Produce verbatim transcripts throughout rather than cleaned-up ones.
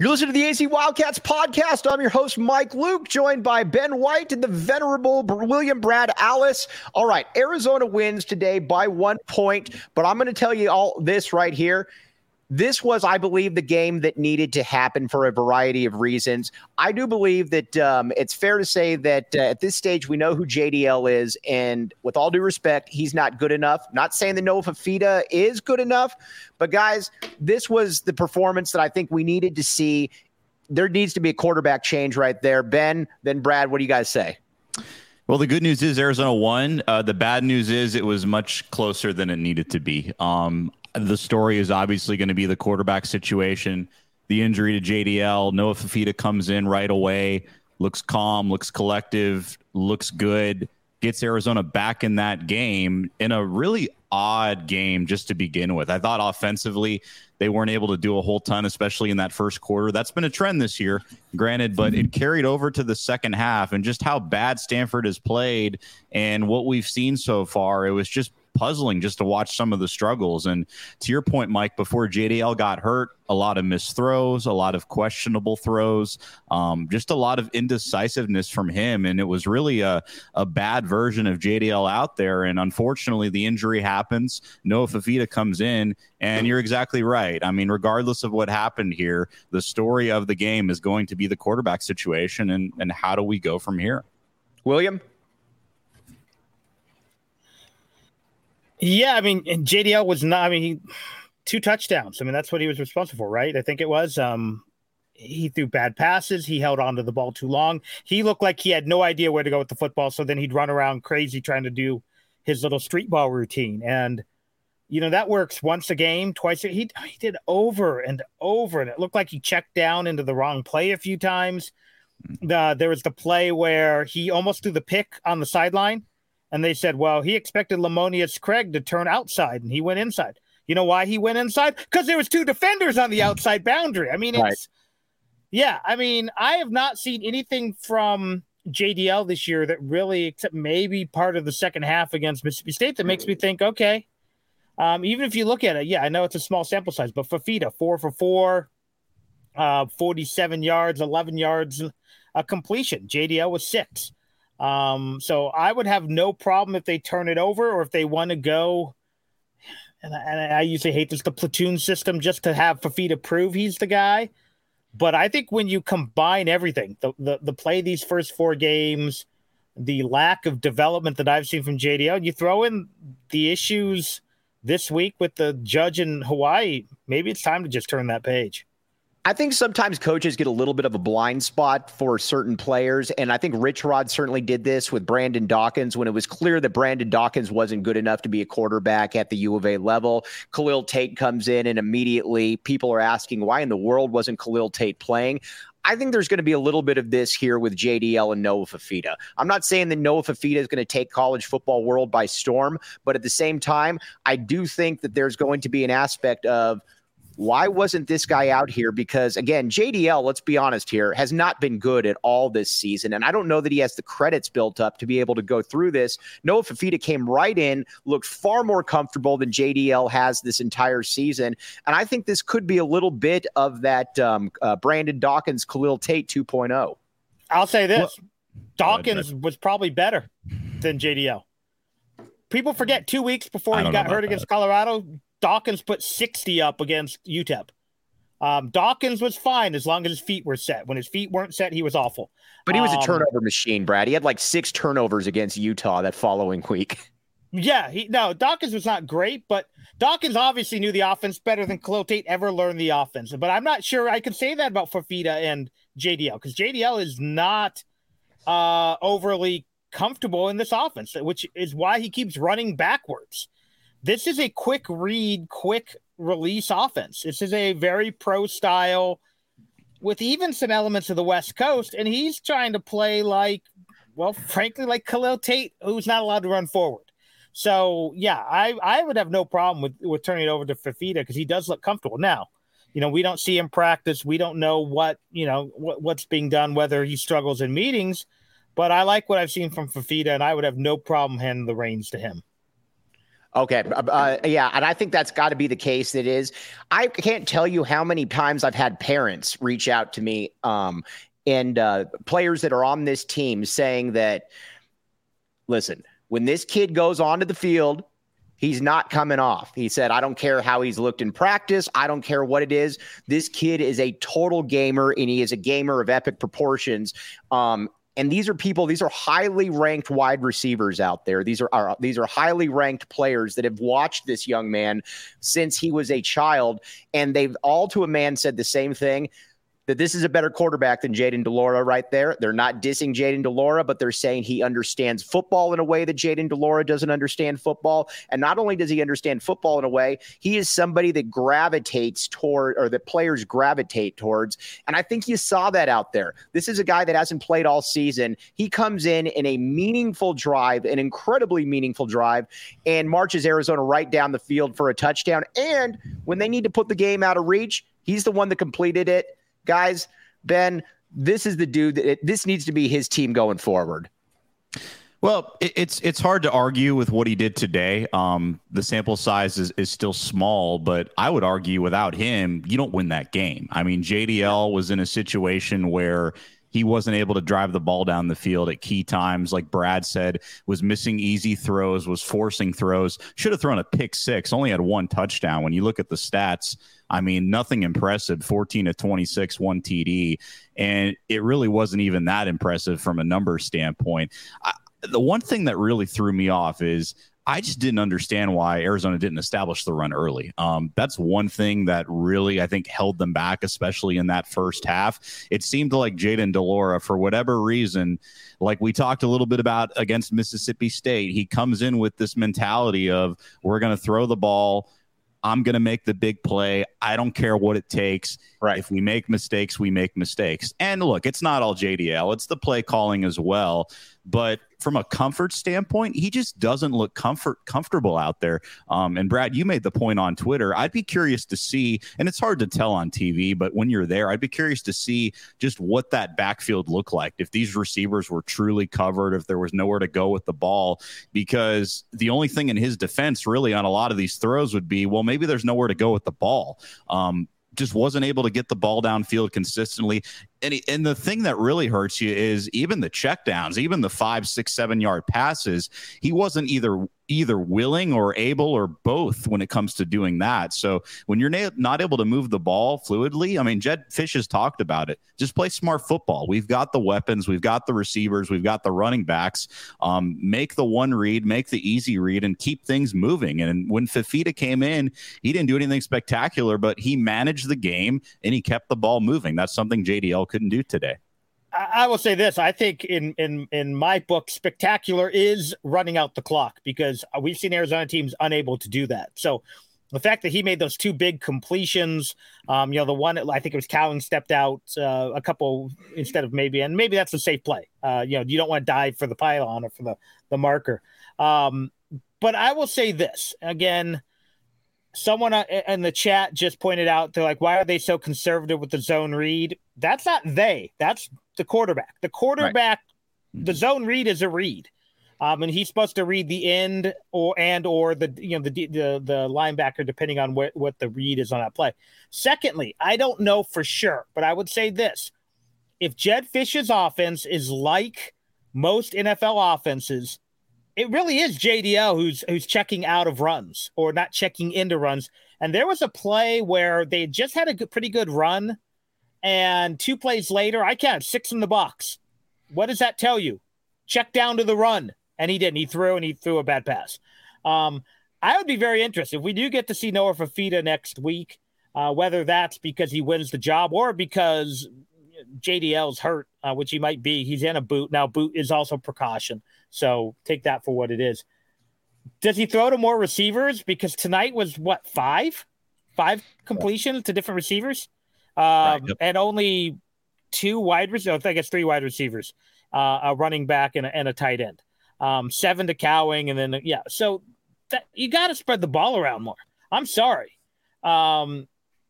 You're listening to the A Z Wildcats podcast. I'm your host, Mike Luke, joined by Ben White and the venerable William Brad Alice. All right, Arizona wins today by one point, but I'm going to tell you all this right here. This was, I believe, the game that needed to happen for a variety of reasons. I do believe that um, it's fair to say that uh, at this stage, we know who J D L is. And with all due respect, he's not good enough. Not saying that Noah Fifita is good enough. But, guys, this was the performance that I think we needed to see. There needs to be a quarterback change right there. Ben, then Brad, what do you guys say? Well, the good news is Arizona won. Uh, the bad news is it was much closer than it needed to be. Um, the story is obviously going to be the quarterback situation, the injury to J D L. Noah Fifita comes in right away, looks calm, looks collective, looks good, gets Arizona back in that game in a really odd game just to begin with. I thought offensively they weren't able to do a whole ton, especially in that first quarter. That's been a trend this year, granted, but it carried over to the second half, and just how bad Stanford has played and what we've seen so far, it was just puzzling just to watch some of the struggles. And to your point, Mike, before J D L got hurt, a lot of missed throws, a lot of questionable throws, um, just a lot of indecisiveness from him. And it was really a, a bad version of J D L out there. And unfortunately, the injury happens. Noah Fifita comes in, and you're exactly right. I mean, regardless of what happened here, the story of the game is going to be the quarterback situation, and, and how do we go from here? William? Yeah, I mean, and J D L was not, I mean, he, two touchdowns. I mean, that's what he was responsible for, right? I think it was. Um, he threw bad passes. He held onto the ball too long. He looked like he had no idea where to go with the football, so then he'd run around crazy trying to do his little street ball routine. And, you know, that works once a game, twice. A, he, he did over and over, and it looked like he checked down into the wrong play a few times. The, there was the play where he almost threw the pick on the sideline. And they said, well, he expected Lamonius Craig to turn outside, and he went inside. You know why he went inside? Because there was two defenders on the outside boundary. I mean, it's right. yeah. I mean, I have not seen anything from J D L this year that really, except maybe part of the second half against Mississippi State, that makes me think, okay. Um, even if you look at it, yeah, I know it's a small sample size, but Fifita, four for four, uh, forty-seven yards, eleven yards, a completion. J D L was six. Um, so I would have no problem if they turn it over, or if they want to go. And I, and I usually hate this, the platoon system, just to have Fifita prove he's the guy. But I think when you combine everything, the, the, the play these first four games, the lack of development that I've seen from J D L, you throw in the issues this week with the judge in Hawaii, maybe it's time to just turn that page. I think sometimes coaches get a little bit of a blind spot for certain players, and I think Rich Rod certainly did this with Brandon Dawkins when it was clear that Brandon Dawkins wasn't good enough to be a quarterback at the U of A level. Khalil Tate comes in, and immediately people are asking, why in the world wasn't Khalil Tate playing? I think there's going to be a little bit of this here with J D L and Noah Fifita. I'm not saying that Noah Fifita is going to take college football world by storm, but at the same time, I do think that there's going to be an aspect of, why wasn't this guy out here? Because, again, J D L, let's be honest here, has not been good at all this season. And I don't know that he has the credits built up to be able to go through this. Noah Fifita came right in, looked far more comfortable than J D L has this entire season. And I think this could be a little bit of that um, uh, Brandon Dawkins, Khalil Tate two point oh. I'll say this. Well, Dawkins was probably better than J D L. People forget two weeks before he got hurt that. against Colorado, Dawkins put sixty up against U T E P. Um, Dawkins was fine as long as his feet were set. When his feet weren't set, he was awful. But he was um, a turnover machine, Brad. He had like six turnovers against Utah that following week. Yeah, he no, Dawkins was not great, but Dawkins obviously knew the offense better than Khalil Tate ever learned the offense. But I'm not sure I could say that about Fifita and J D L, because J D L is not uh, overly comfortable in this offense, which is why he keeps running backwards. This is a quick read, quick release offense. This is a very pro style with even some elements of the West Coast. And he's trying to play like, well, frankly, like Khalil Tate, who's not allowed to run forward. So, yeah, I, I would have no problem with, with turning it over to Fifita because he does look comfortable. Now, you know, we don't see him practice. We don't know what, you know, what, what's being done, whether he struggles in meetings. But I like what I've seen from Fifita, and I would have no problem handing the reins to him. Okay. Uh, yeah. And I think that's got to be the case. It is. I can't tell you how many times I've had parents reach out to me um, and uh, players that are on this team saying that, listen, when this kid goes onto the field, he's not coming off. He said, I don't care how he's looked in practice. I don't care what it is. This kid is a total gamer, and he is a gamer of epic proportions. Um, And these are people, these are highly ranked wide receivers out there. These are, are these are highly ranked players that have watched this young man since he was a child. And they've all to a man said the same thing, that this is a better quarterback than Jayden de Laura right there. They're not dissing Jayden de Laura, but they're saying he understands football in a way that Jayden de Laura doesn't understand football. And not only does he understand football in a way, he is somebody that gravitates toward, or that players gravitate towards. And I think you saw that out there. This is a guy that hasn't played all season. He comes in in a meaningful drive, an incredibly meaningful drive, and marches Arizona right down the field for a touchdown. And when they need to put the game out of reach, he's the one that completed it. Guys, Ben, this is the dude that it, this needs to be his team going forward. Well, it, it's it's hard to argue with what he did today. Um, the sample size is, is still small, but I would argue without him, you don't win that game. I mean, J D L was in a situation where he wasn't able to drive the ball down the field at key times. Like Brad said, was missing easy throws, was forcing throws, should have thrown a pick six, only had one touchdown. When you look at the stats, I mean, nothing impressive, fourteen to twenty-six, one T D. And it really wasn't even that impressive from a number standpoint. I, the one thing that really threw me off is I just didn't understand why Arizona didn't establish the run early. Um, that's one thing that really, I think, held them back, especially in that first half. It seemed like Jayden de Laura, for whatever reason, like we talked a little bit about against Mississippi State, he comes in with this mentality of, we're going to throw the ball, I'm going to make the big play. I don't care what it takes. Right. If we make mistakes, we make mistakes. And look, it's not all J D L. It's the play calling as well. But from a comfort standpoint, he just doesn't look comfort comfortable out there. Um, and Brad, you made the point on Twitter. I'd be curious to see, and it's hard to tell on T V, but when you're there, I'd be curious to see just what that backfield looked like. If these receivers were truly covered, if there was nowhere to go with the ball, because the only thing in his defense really on a lot of these throws would be, well, maybe there's nowhere to go with the ball. Um, just wasn't able to get the ball downfield consistently. And, he, and the thing that really hurts you is even the checkdowns, even the five, six, seven yard passes. He wasn't either either willing or able or both when it comes to doing that. So when you're na- not able to move the ball fluidly, I mean, Jedd Fisch has talked about it. Just play smart football. We've got the weapons. We've got the receivers. We've got the running backs. Um, make the one read, make the easy read, and keep things moving. And when Fifita came in, he didn't do anything spectacular, but he managed the game and he kept the ball moving. That's something J D L couldn't do today. I will say this. I think in, in, in my book, spectacular is running out the clock, because we've seen Arizona teams unable to do that. So the fact that he made those two big completions, um, you know, the one, I think it was Cowing stepped out uh, a couple instead of maybe, and maybe that's a safe play. Uh, you know, you don't want to dive for the pylon or for the, the marker. Um, but I will say this again. Someone in the chat just pointed out, they're like, why are they so conservative with the zone read? That's not they. That's the quarterback. The quarterback, right. The zone read is a read. Um, and he's supposed to read the end or and or the you know the the, the linebacker, depending on what, what the read is on that play. Secondly, I don't know for sure, but I would say this. If Jedd Fisch's offense is like most N F L offenses, it really is J D L who's who's checking out of runs or not checking into runs. And there was a play where they just had a good, pretty good run, and two plays later, I counted six in the box. What does that tell you? Check down to the run, and he didn't. He threw, and he threw a bad pass. Um, I would be very interested if we do get to see Noah Fifita next week, uh, whether that's because he wins the job or because J D L's hurt, uh, which he might be. He's in a boot. Now, boot is also precaution. So take that for what it is. Does he throw to more receivers? Because tonight was, what, five? Five completions to different receivers? Um, right, yep. And only two wide receivers. I guess three wide receivers, uh, a running back and a, and a tight end. Um, seven to Cowing. And then, yeah. So that, you got to spread the ball around more. I'm sorry. Um,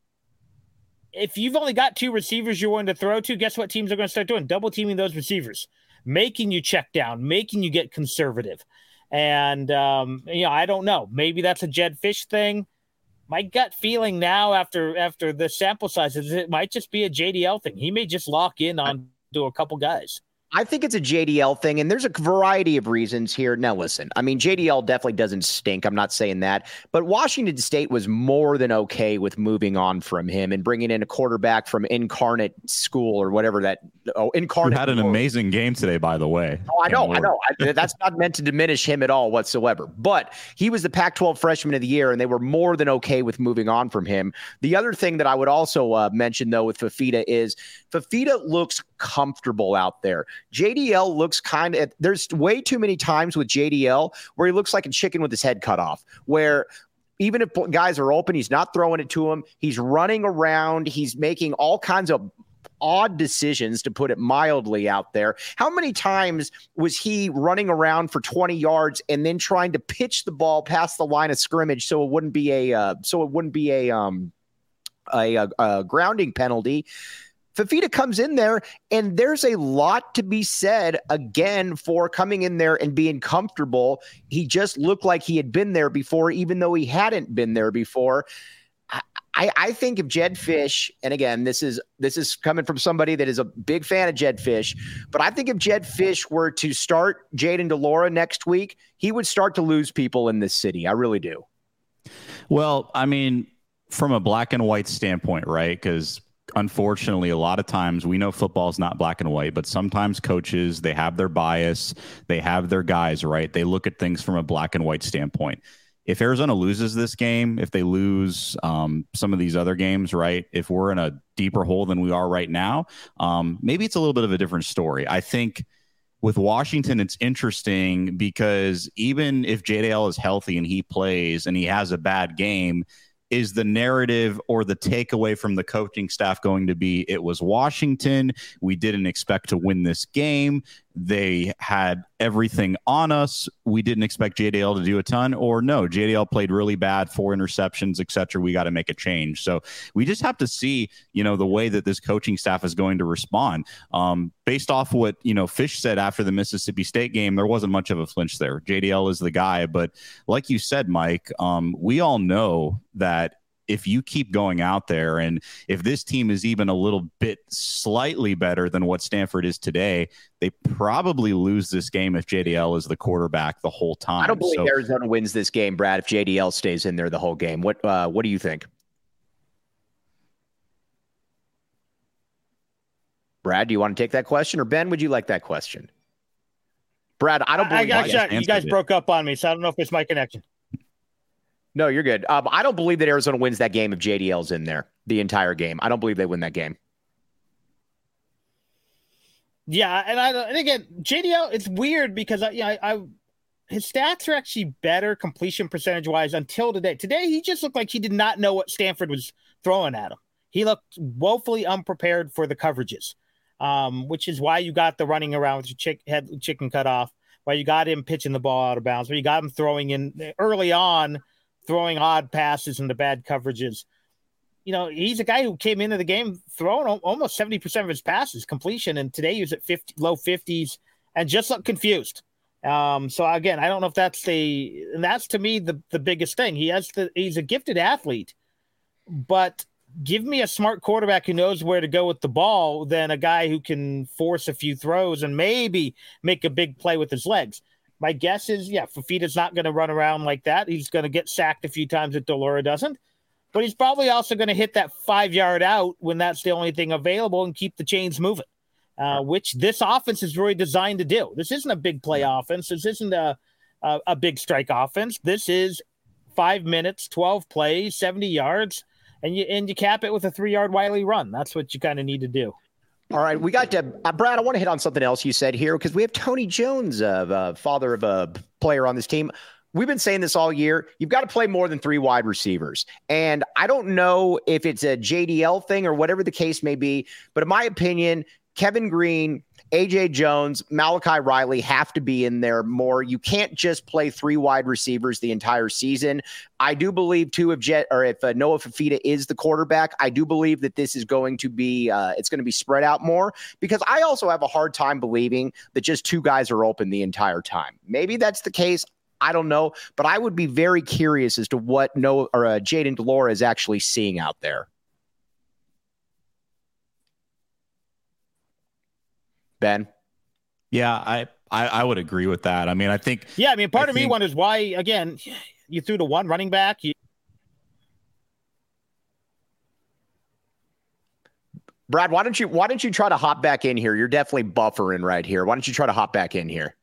if you've only got two receivers you're wanting to throw to, guess what teams are going to start doing? Double teaming those receivers, making you check down, making you get conservative. And, um, you know, I don't know. Maybe that's a Jedd Fisch thing. My gut feeling now after after the sample size is it might just be a J D L thing. He may just lock in on to a couple guys. I think it's a J D L thing, and there's a variety of reasons here. Now, listen, I mean, J D L definitely doesn't stink. I'm not saying that. But Washington State was more than okay with moving on from him and bringing in a quarterback from Incarnate School or whatever that – oh, Incarnate. Who had an School. Amazing game today, by the way. Oh, I know, I know. I, that's not meant to diminish him at all whatsoever. But he was the Pac twelve Freshman of the Year, and they were more than okay with moving on from him. The other thing that I would also uh, mention, though, with Fifita is Fifita looks comfortable out there. J D L looks kind of, there's way too many times with J D L where he looks like a chicken with his head cut off, where even if guys are open, he's not throwing it to him. He's running around. He's making all kinds of odd decisions, to put it mildly, out there. How many times was he running around for twenty yards and then trying to pitch the ball past the line of scrimmage so it wouldn't be a, uh, so it wouldn't be a, um, a, a, a grounding penalty? Fifita comes in there, and there's a lot to be said, again, for coming in there and being comfortable. He just looked like he had been there before, even though he hadn't been there before. I, I think if Jedd Fisch, and again, this is this is coming from somebody that is a big fan of Jedd Fisch, but I think if Jedd Fisch were to start Jayden de Laura next week, he would start to lose people in this city. I really do. Well, I mean, from a black and white standpoint, right? Because unfortunately, a lot of times we know football is not black and white, but sometimes coaches, they have their bias, they have their guys, right? They look at things from a black and white standpoint. If Arizona loses this game, if they lose um, some of these other games, right, if we're in a deeper hole than we are right now, um, maybe it's a little bit of a different story. I think with Washington, it's interesting because even if J D L is healthy and he plays and he has a bad game, is the narrative or the takeaway from the coaching staff going to be, it was Washington, we didn't expect to win this game, they had everything on us, we didn't expect J D L to do a ton, or no, J D L played really bad, four interceptions, et cetera, we got to make a change. So we just have to see, you know, the way that this coaching staff is going to respond. Um, based off what, you know, Fisch said after the Mississippi State game, there wasn't much of a flinch there. J D L is the guy, but like you said, Mike, um, we all know that if you keep going out there and if this team is even a little bit slightly better than what Stanford is today, they probably lose this game if J D L is the quarterback the whole time. I don't believe so, Arizona wins this game, Brad, if J D L stays in there the whole game. What uh, what do you think? Brad, do you want to take that question? Or Ben, would you like that question? Brad, I don't believe I, I, I, you guys broke up on me, so I don't know if it's my connection. No, you're good. Um, I don't believe that Arizona wins that game if J D L's in there the entire game. I don't believe they win that game. Yeah, and I and again, J D L, it's weird because I, you know, I, I his stats are actually better completion percentage wise until today. Today, he just looked like he did not know what Stanford was throwing at him. He looked woefully unprepared for the coverages, um, which is why you got the running around with your chick, head chicken cut off, why you got him pitching the ball out of bounds, why you got him throwing in early on. Throwing odd passes into bad coverages. You know, he's a guy who came into the game throwing almost seventy percent of his passes completion. And today he was at fifty, low fifties and just looked confused. Um, so again, I don't know if that's the, and that's to me, the, the biggest thing. He has the, he's a gifted athlete, but give me a smart quarterback who knows where to go with the ball than a guy who can force a few throws and maybe make a big play with his legs. My guess is, yeah, Fifita's not going to run around like that. He's going to get sacked a few times if de Laura doesn't. But he's probably also going to hit that five-yard out when that's the only thing available and keep the chains moving, uh, which this offense is really designed to do. This isn't a big play offense. This isn't a, a, a big strike offense. This is five minutes, twelve plays, seventy yards, and you and you cap it with a three-yard Wiley run. That's what you kind of need to do. All right, we got to uh, Brad. I want to hit on something else you said here because we have Tony Jones, uh, uh, father of a player on this team. We've been saying this all year. You've got to play more than three wide receivers, and I don't know if it's a J D L thing or whatever the case may be. But in my opinion, Kevin Green, A J Jones, Malachi Riley have to be in there more. You can't just play three wide receivers the entire season. I do believe too, if Jet or if uh, Noah Fifita is the quarterback, I do believe that this is going to be uh, it's going to be spread out more because I also have a hard time believing that just two guys are open the entire time. Maybe that's the case. I don't know, but I would be very curious as to what Noah or uh, Jayden de Laura is actually seeing out there. Ben? Yeah, I, I, I would agree with that. I mean, I think. Yeah, I mean, part I of think, me wonders why, again, you threw to one running back. You... Brad, why don't you why don't you try to hop back in here? You're definitely buffering right here. Why don't you try to hop back in here?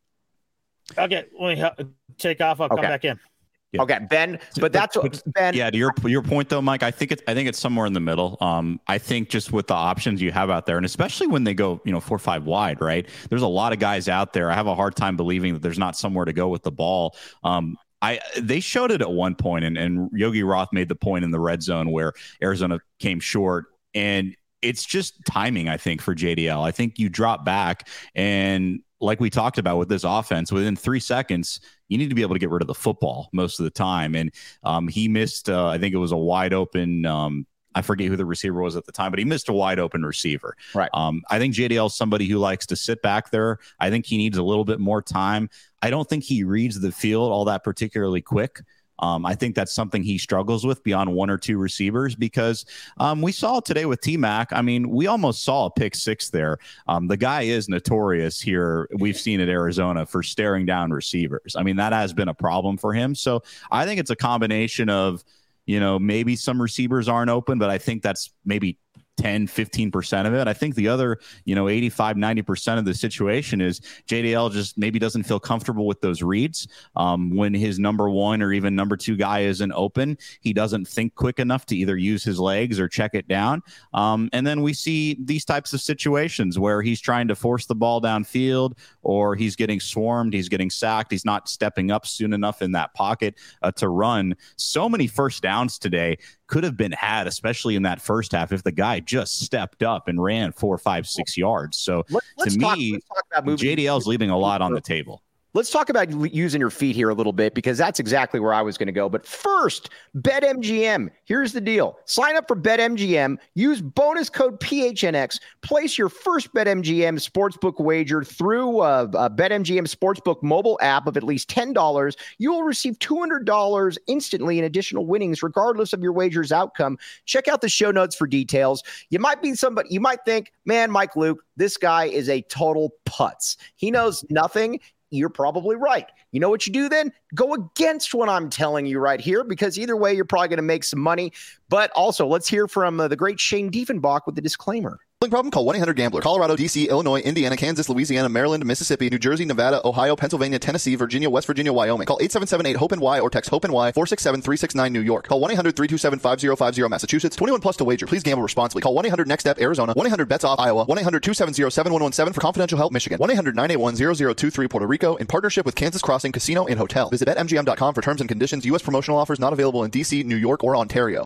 Okay, let me take off. I'll okay. come back in. Yeah. Okay, Ben, but that's what Ben. Yeah, to your your point though, Mike. I think it's I think it's somewhere in the middle. Um, I think just with the options you have out there, and especially when they go, you know, four or five wide, right? There's a lot of guys out there. I have a hard time believing that there's not somewhere to go with the ball. Um, I they showed it at one point, and and Yogi Roth made the point in the red zone where Arizona came short, and it's just timing. I think for J D L, I think you drop back and. Like we talked about with this offense, within three seconds, you need to be able to get rid of the football most of the time. And um, he missed, uh, I think it was a wide open, um, I forget who the receiver was at the time, but he missed a wide open receiver. Right. Um, I think J D L is somebody who likes to sit back there. I think he needs a little bit more time. I don't think he reads the field all that particularly quick. Um, I think that's something he struggles with beyond one or two receivers because um, we saw today with T-Mac. I mean, we almost saw a pick six there. Um, the guy is notorious here. We've seen at Arizona for staring down receivers. I mean, that has been a problem for him. So I think it's a combination of, you know, maybe some receivers aren't open, but I think that's maybe ten, fifteen percent of it. I think the other, you know, eighty-five, ninety percent of the situation is J D L just maybe doesn't feel comfortable with those reads. Um, when his number one or even number two guy isn't open, he doesn't think quick enough to either use his legs or check it down. Um, and then we see these types of situations where he's trying to force the ball downfield or he's getting swarmed, he's getting sacked, he's not stepping up soon enough in that pocket uh, to run. So many first downs today could have been had, especially in that first half, if the guy just stepped up and ran four, five, six yards. So Let, to talk, me, talk J D L is leaving a lot on the table. Let's talk about using your feet here a little bit because that's exactly where I was going to go. But first, BetMGM. Here's the deal. Sign up for BetMGM. Use bonus code P H N X. Place your first BetMGM sportsbook wager through a, a BetMGM sportsbook mobile app of at least ten dollars. You will receive two hundred dollars instantly in additional winnings, regardless of your wager's outcome. Check out the show notes for details. You might be somebody, you might think, man, Mike Luke, this guy is a total putz. He knows nothing. You're probably right. You know what you do then? Go against what I'm telling you right here, because either way, you're probably going to make some money. But also, let's hear from uh, the great Shane Diefenbach with the disclaimer. Problem? Call one eight hundred gambler. Colorado, D C, Illinois, Indiana, Kansas, Louisiana, Maryland, Mississippi, New Jersey, Nevada, Ohio, Pennsylvania, Tennessee, Virginia, West Virginia, Wyoming. Call eight seven seven eight hope N Y or text hope N Y four six seven three six nine New York. Call one eight hundred three two seven five zero five zero Massachusetts. twenty-one plus to wager. Please gamble responsibly. Call one eight hundred next step Arizona. one eight hundred bets off Iowa. one eight hundred two seven zero seven one one seven for confidential help Michigan. one eight hundred nine eight one zero zero two three Puerto Rico in partnership with Kansas Crossing Casino and Hotel. Visit bet M G M dot com for terms and conditions. U S promotional offers not available in D C, New York, or Ontario.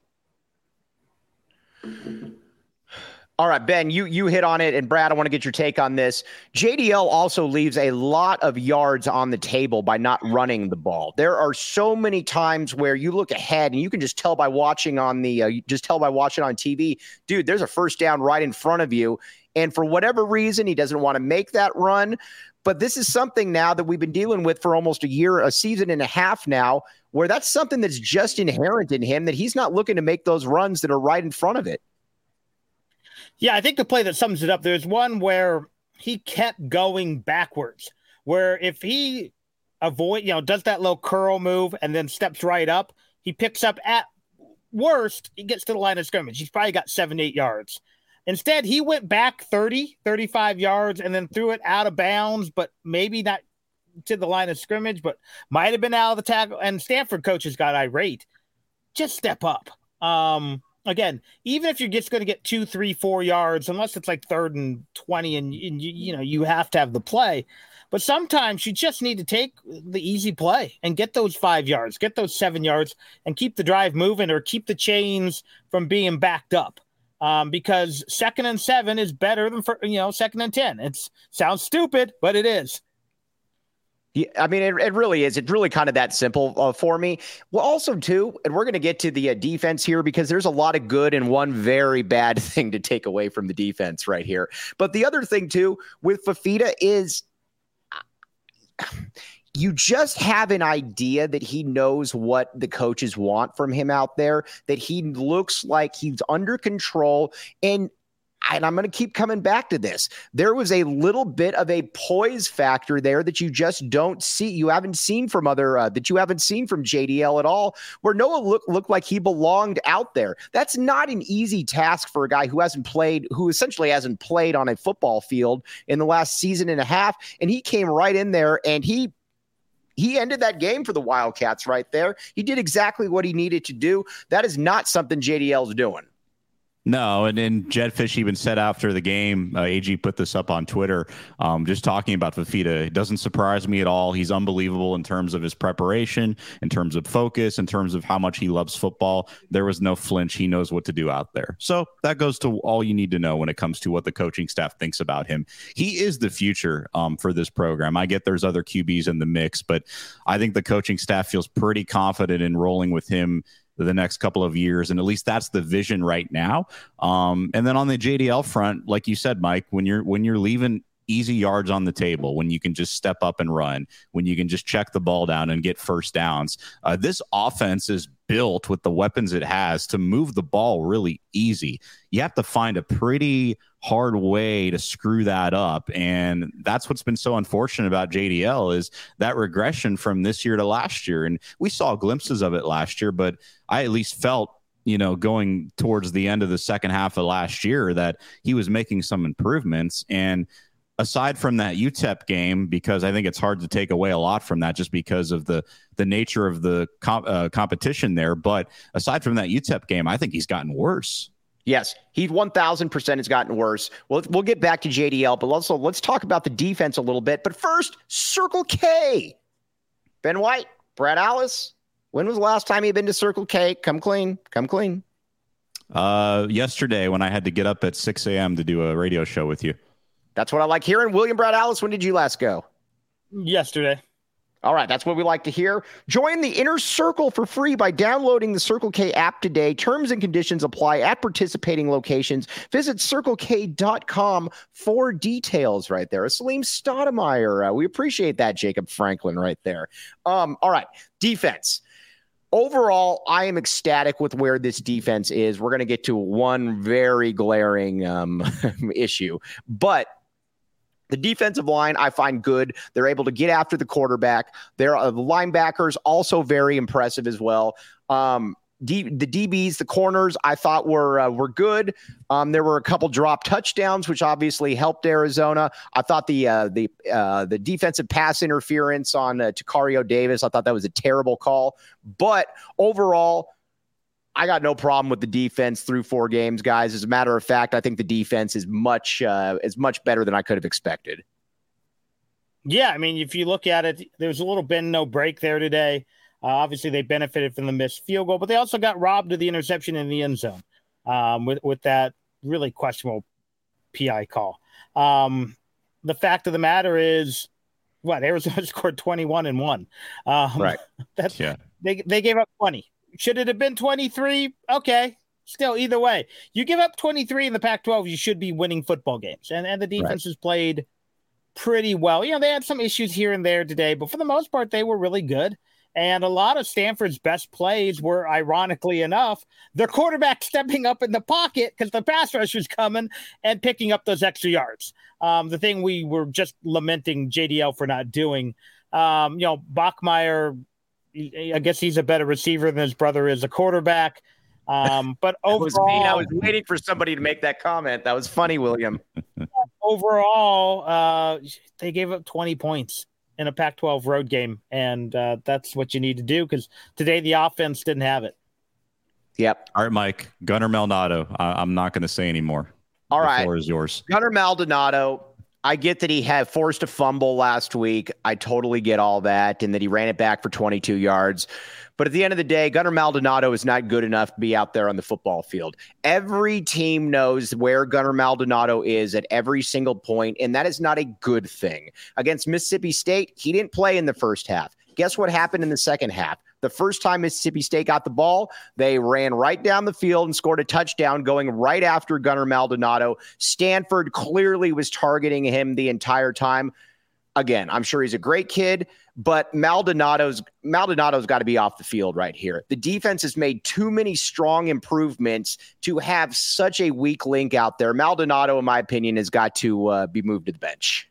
All right, Ben, you you hit on it, and Brad, I want to get your take on this. J D L also leaves a lot of yards on the table by not running the ball. There are so many times where you look ahead, and you can just tell by watching on the, uh, you just tell by watching on T V, dude, there's a first down right in front of you, and for whatever reason, he doesn't want to make that run. But this is something now that we've been dealing with for almost a year, a season and a half now, where that's something that's just inherent in him, that he's not looking to make those runs that are right in front of it. Yeah, I think the play that sums it up, there's one where he kept going backwards, where if he avoid, you know, does that little curl move and then steps right up, he picks up at worst, he gets to the line of scrimmage. He's probably got seven, eight yards. Instead, he went back thirty, thirty-five yards and then threw it out of bounds, but maybe not to the line of scrimmage, but might have been out of the tackle. And Stanford coaches got irate. Just step up. Um, Again, even if you're just going to get two, three, four yards, unless it's like third and twenty, and, and you, you know you have to have the play. But sometimes you just need to take the easy play and get those five yards, get those seven yards, and keep the drive moving or keep the chains from being backed up. Um, because second and seven is better than for, you know second and ten. It sounds stupid, but it is. Yeah, I mean, it, it really is. It's really kind of that simple uh, for me. Well, also, too, and we're going to get to the uh, defense here because there's a lot of good and one very bad thing to take away from the defense right here. But the other thing, too, with Fifita is you just have an idea that he knows what the coaches want from him out there, that he looks like he's under control. And And I'm going to keep coming back to this. There was a little bit of a poise factor there that you just don't see. You haven't seen from other, uh, that you haven't seen from J D L at all, where Noah looked looked like he belonged out there. That's not an easy task for a guy who hasn't played, who essentially hasn't played on a football field in the last season and a half. And he came right in there and he He ended that game for the Wildcats right there. He did exactly what he needed to do. That is not something J D L's doing. No, and then Jedd Fisch even said after the game, uh, A G put this up on Twitter, um, just talking about Fifita. It doesn't surprise me at all. He's unbelievable in terms of his preparation, in terms of focus, in terms of how much he loves football. There was no flinch. He knows what to do out there. So that goes to all you need to know when it comes to what the coaching staff thinks about him. He is the future um, for this program. I get there's other Q Bs in the mix, but I think the coaching staff feels pretty confident in rolling with him the next couple of years. And at least that's the vision right now. Um, and then on the J D L front, like you said, Mike, when you're, when you're leaving easy yards on the table, when you can just step up and run, when you can just check the ball down and get first downs, uh, this offense is built with the weapons it has to move the ball really easy. You have to find a pretty hard way to screw that up. And that's what's been so unfortunate about J D L is that regression from this year to last year. And we saw glimpses of it last year, but I at least felt, you know, going towards the end of the second half of last year that he was making some improvements. And aside from that U T E P game, because I think it's hard to take away a lot from that just because of the the nature of the comp, uh, competition there. But aside from that U T E P game, I think he's gotten worse. Yes, he one thousand percent has gotten worse. Well, we'll get back to J D L, but also let's talk about the defense a little bit. But first, Circle K. Ben White, Brad Alice, when was the last time you've been to Circle K? Come clean, come clean. Uh, yesterday when I had to get up at six a.m. to do a radio show with you. That's what I like hearing. William Brad Alice, when did you last go? Yesterday. All right, that's what we like to hear. Join the Inner Circle for free by downloading the Circle K app today. Terms and conditions apply at participating locations. Visit circle k dot com for details right there. Salim Stoudemire, uh, we appreciate that, Jacob Franklin right there. Um, all right, defense. Overall, I am ecstatic with where this defense is. We're going to get to one very glaring um, issue, but the defensive line, I find good. They're able to get after the quarterback. They're uh, the linebackers also very impressive as well. Um, D, the D Bs, the corners, I thought were uh, were good. Um, there were a couple drop touchdowns, which obviously helped Arizona. I thought the uh, the uh, the defensive pass interference on uh, Tacario Davis, I thought that was a terrible call. But overall, I got no problem with the defense through four games, guys. As a matter of fact, I think the defense is much uh, is much better than I could have expected. Yeah, I mean, if you look at it, there's a little bend no break there today. Uh, obviously, they benefited from the missed field goal, but they also got robbed of the interception in the end zone um, with with that really questionable P I call. Um, the fact of the matter is, what Arizona scored twenty-one and one. Um, right. That's yeah. They they gave up twenty. Should it have been twenty-three? Okay. Still, either way, you give up twenty-three in the Pac twelve, you should be winning football games. And and the defense right. has played pretty well. You know, they had some issues here and there today, but for the most part, they were really good. And a lot of Stanford's best plays were, ironically enough, their quarterback stepping up in the pocket because the pass rush was coming and picking up those extra yards. Um, the thing we were just lamenting J D L for not doing. Um, you know, Bachmeier, I guess he's a better receiver than his brother is a quarterback. Um, but overall, was I was waiting for somebody to make that comment. That was funny, William. Overall, uh, they gave up twenty points in a Pac twelve road game, and uh, that's what you need to do because today the offense didn't have it. Yep. All right, Mike. Gunnar Maldonado. I- I'm not going to say anymore. All the right. The floor is yours. Gunnar Maldonado. I get that he had forced a fumble last week. I totally get all that, and that he ran it back for twenty-two yards. But at the end of the day, Gunnar Maldonado is not good enough to be out there on the football field. Every team knows where Gunnar Maldonado is at every single point, and that is not a good thing. Against Mississippi State, he didn't play in the first half. Guess what happened in the second half? The first time Mississippi State got the ball, they ran right down the field and scored a touchdown going right after Gunnar Maldonado. Stanford clearly was targeting him the entire time. again, I'm sure he's a great kid, but Maldonado's Maldonado's got to be off the field right here. The defense has made too many strong improvements to have such a weak link out there. Maldonado, in my opinion, has got to uh, be moved to the bench.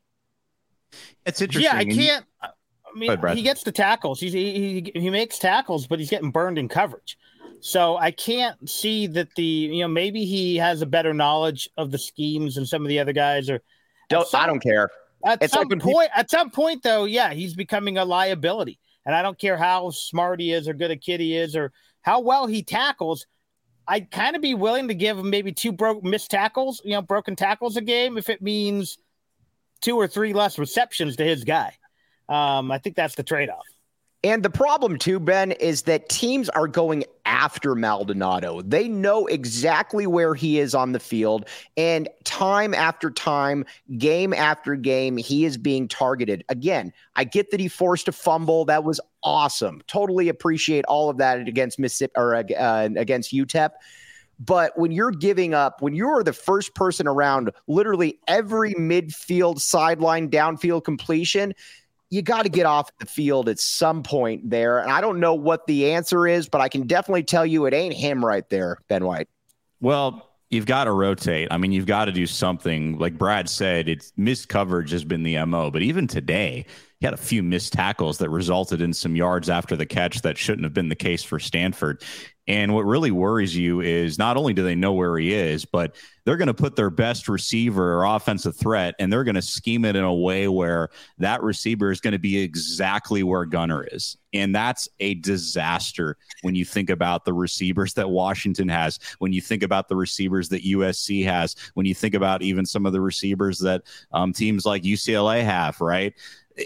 It's interesting. Yeah, I can't. I mean, ahead, he gets the tackles. He's, he, he he makes tackles, but he's getting burned in coverage. So I can't see that the, you know, maybe he has a better knowledge of the schemes than some of the other guys. Or don't, some, I don't care. At it's some like point, he, at some point, though, yeah, he's becoming a liability. And I don't care how smart he is or good a kid he is or how well he tackles. I'd kind of be willing to give him maybe two broke missed tackles, you know, broken tackles a game if it means two or three less receptions to his guy. Um, I think that's the trade-off. And the problem, too, Ben, is that teams are going after Maldonado. They know exactly where he is on the field. And time after time, game after game, he is being targeted. Again, I get that he forced a fumble. That was awesome. Totally appreciate all of that against Mississippi or uh, against U T E P. But when you're giving up, when you're the first person around literally every midfield, sideline, downfield completion, you got to get off the field at some point there. And I don't know what the answer is, but I can definitely tell you it ain't him right there, Ben White. Well, you've got to rotate. I mean, you've got to do something. Like Brad said, it's missed coverage has been the M O. But even today, he had a few missed tackles that resulted in some yards after the catch that shouldn't have been the case for Stanford. And what really worries you is not only do they know where he is, but they're going to put their best receiver or offensive threat, and they're going to scheme it in a way where that receiver is going to be exactly where Gunner is. And that's a disaster when you think about the receivers that Washington has, when you think about the receivers that U S C has, when you think about even some of the receivers that um, teams like U C L A have, right?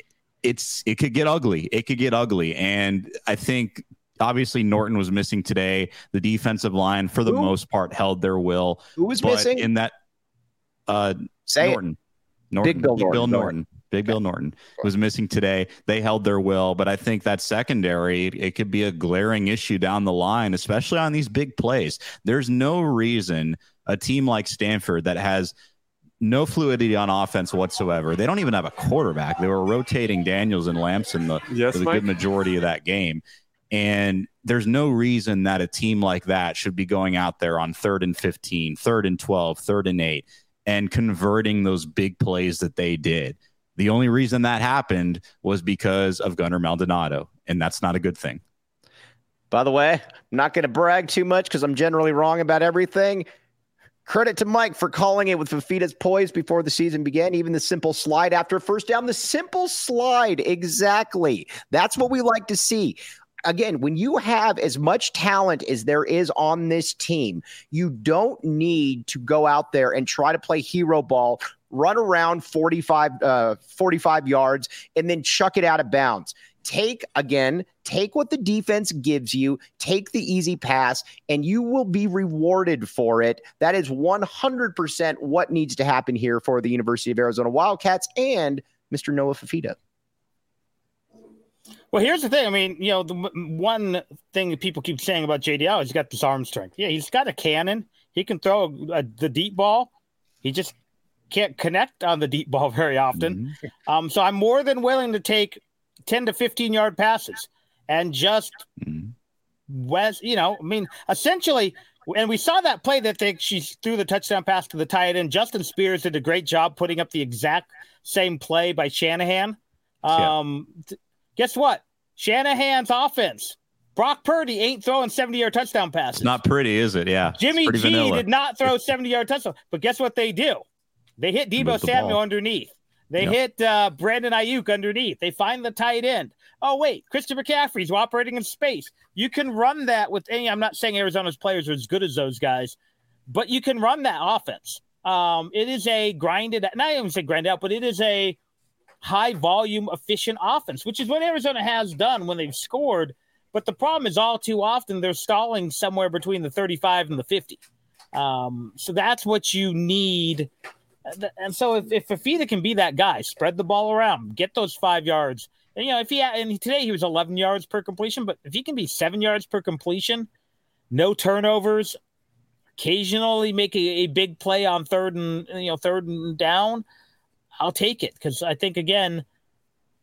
It's it could get ugly. It could get ugly. And I think obviously Norton was missing today. The defensive line, for the Who? most part, held their will. Who was but missing? in that? Uh, Say Norton. it. Norton. Big Bill Big Norton. Bill Norton. Big Bill Norton was missing today. They held their will, but I think that secondary, it, it could be a glaring issue down the line, especially on these big plays. There's no reason a team like Stanford that has no fluidity on offense whatsoever. They don't even have a quarterback. They were rotating Daniels and Lamson the, yes, for the Mike? good majority of that game. And there's no reason that a team like that should be going out there on third and fifteen, third and twelve, third and eight, and converting those big plays that they did. The only reason that happened was because of Gunnar Maldonado, and that's not a good thing. By the way, I'm not going to brag too much because I'm generally wrong about everything. Credit to Mike for calling it with Fifita's poise before the season began. Even the simple slide after a first down, the simple slide. Exactly. That's what we like to see. Again, when you have as much talent as there is on this team, you don't need to go out there and try to play hero ball, run around forty-five, uh, forty-five yards, and then chuck it out of bounds. Take, again, take what the defense gives you, take the easy pass, and you will be rewarded for it. That is one hundred percent what needs to happen here for the University of Arizona Wildcats and Mister Noah Fifita. Well, here's the thing. I mean, you know, the one thing that people keep saying about J D L is he's got this arm strength. Yeah, he's got a cannon. He can throw a, a, the deep ball. He just can't connect on the deep ball very often. Mm-hmm. Um, so I'm more than willing to take ten to fifteen yard passes and just mm-hmm. West, you know, I mean, essentially, and we saw that play that they, she threw the touchdown pass to the tight end. Justin Spears did a great job putting up the exact same play by Shanahan. Um, yeah. th- Guess what? Shanahan's offense. Brock Purdy ain't throwing seventy-yard touchdown passes. It's not pretty, is it? Yeah. Jimmy G vanilla. did not throw seventy-yard touchdown. But guess what they do? They hit Deebo Samuel ball. underneath. They yep. hit uh, Brandon Ayuk underneath. They find the tight end. Oh, wait. Christian McCaffrey's operating in space. You can run that with any – I'm not saying Arizona's players are as good as those guys, but you can run that offense. Um, it is a grinded – not even say grinded out, but it is a – high volume, efficient offense, which is what Arizona has done when they've scored. But the problem is all too often they're stalling somewhere between the thirty-five and the fifty. Um, so that's what you need. And so if, if Fifita can be that guy, spread the ball around, get those five yards. And, you know, if he had, and today he was eleven yards per completion, but if he can be seven yards per completion, no turnovers, occasionally make a, a big play on third and, you know, third and down, I'll take it because I think, again,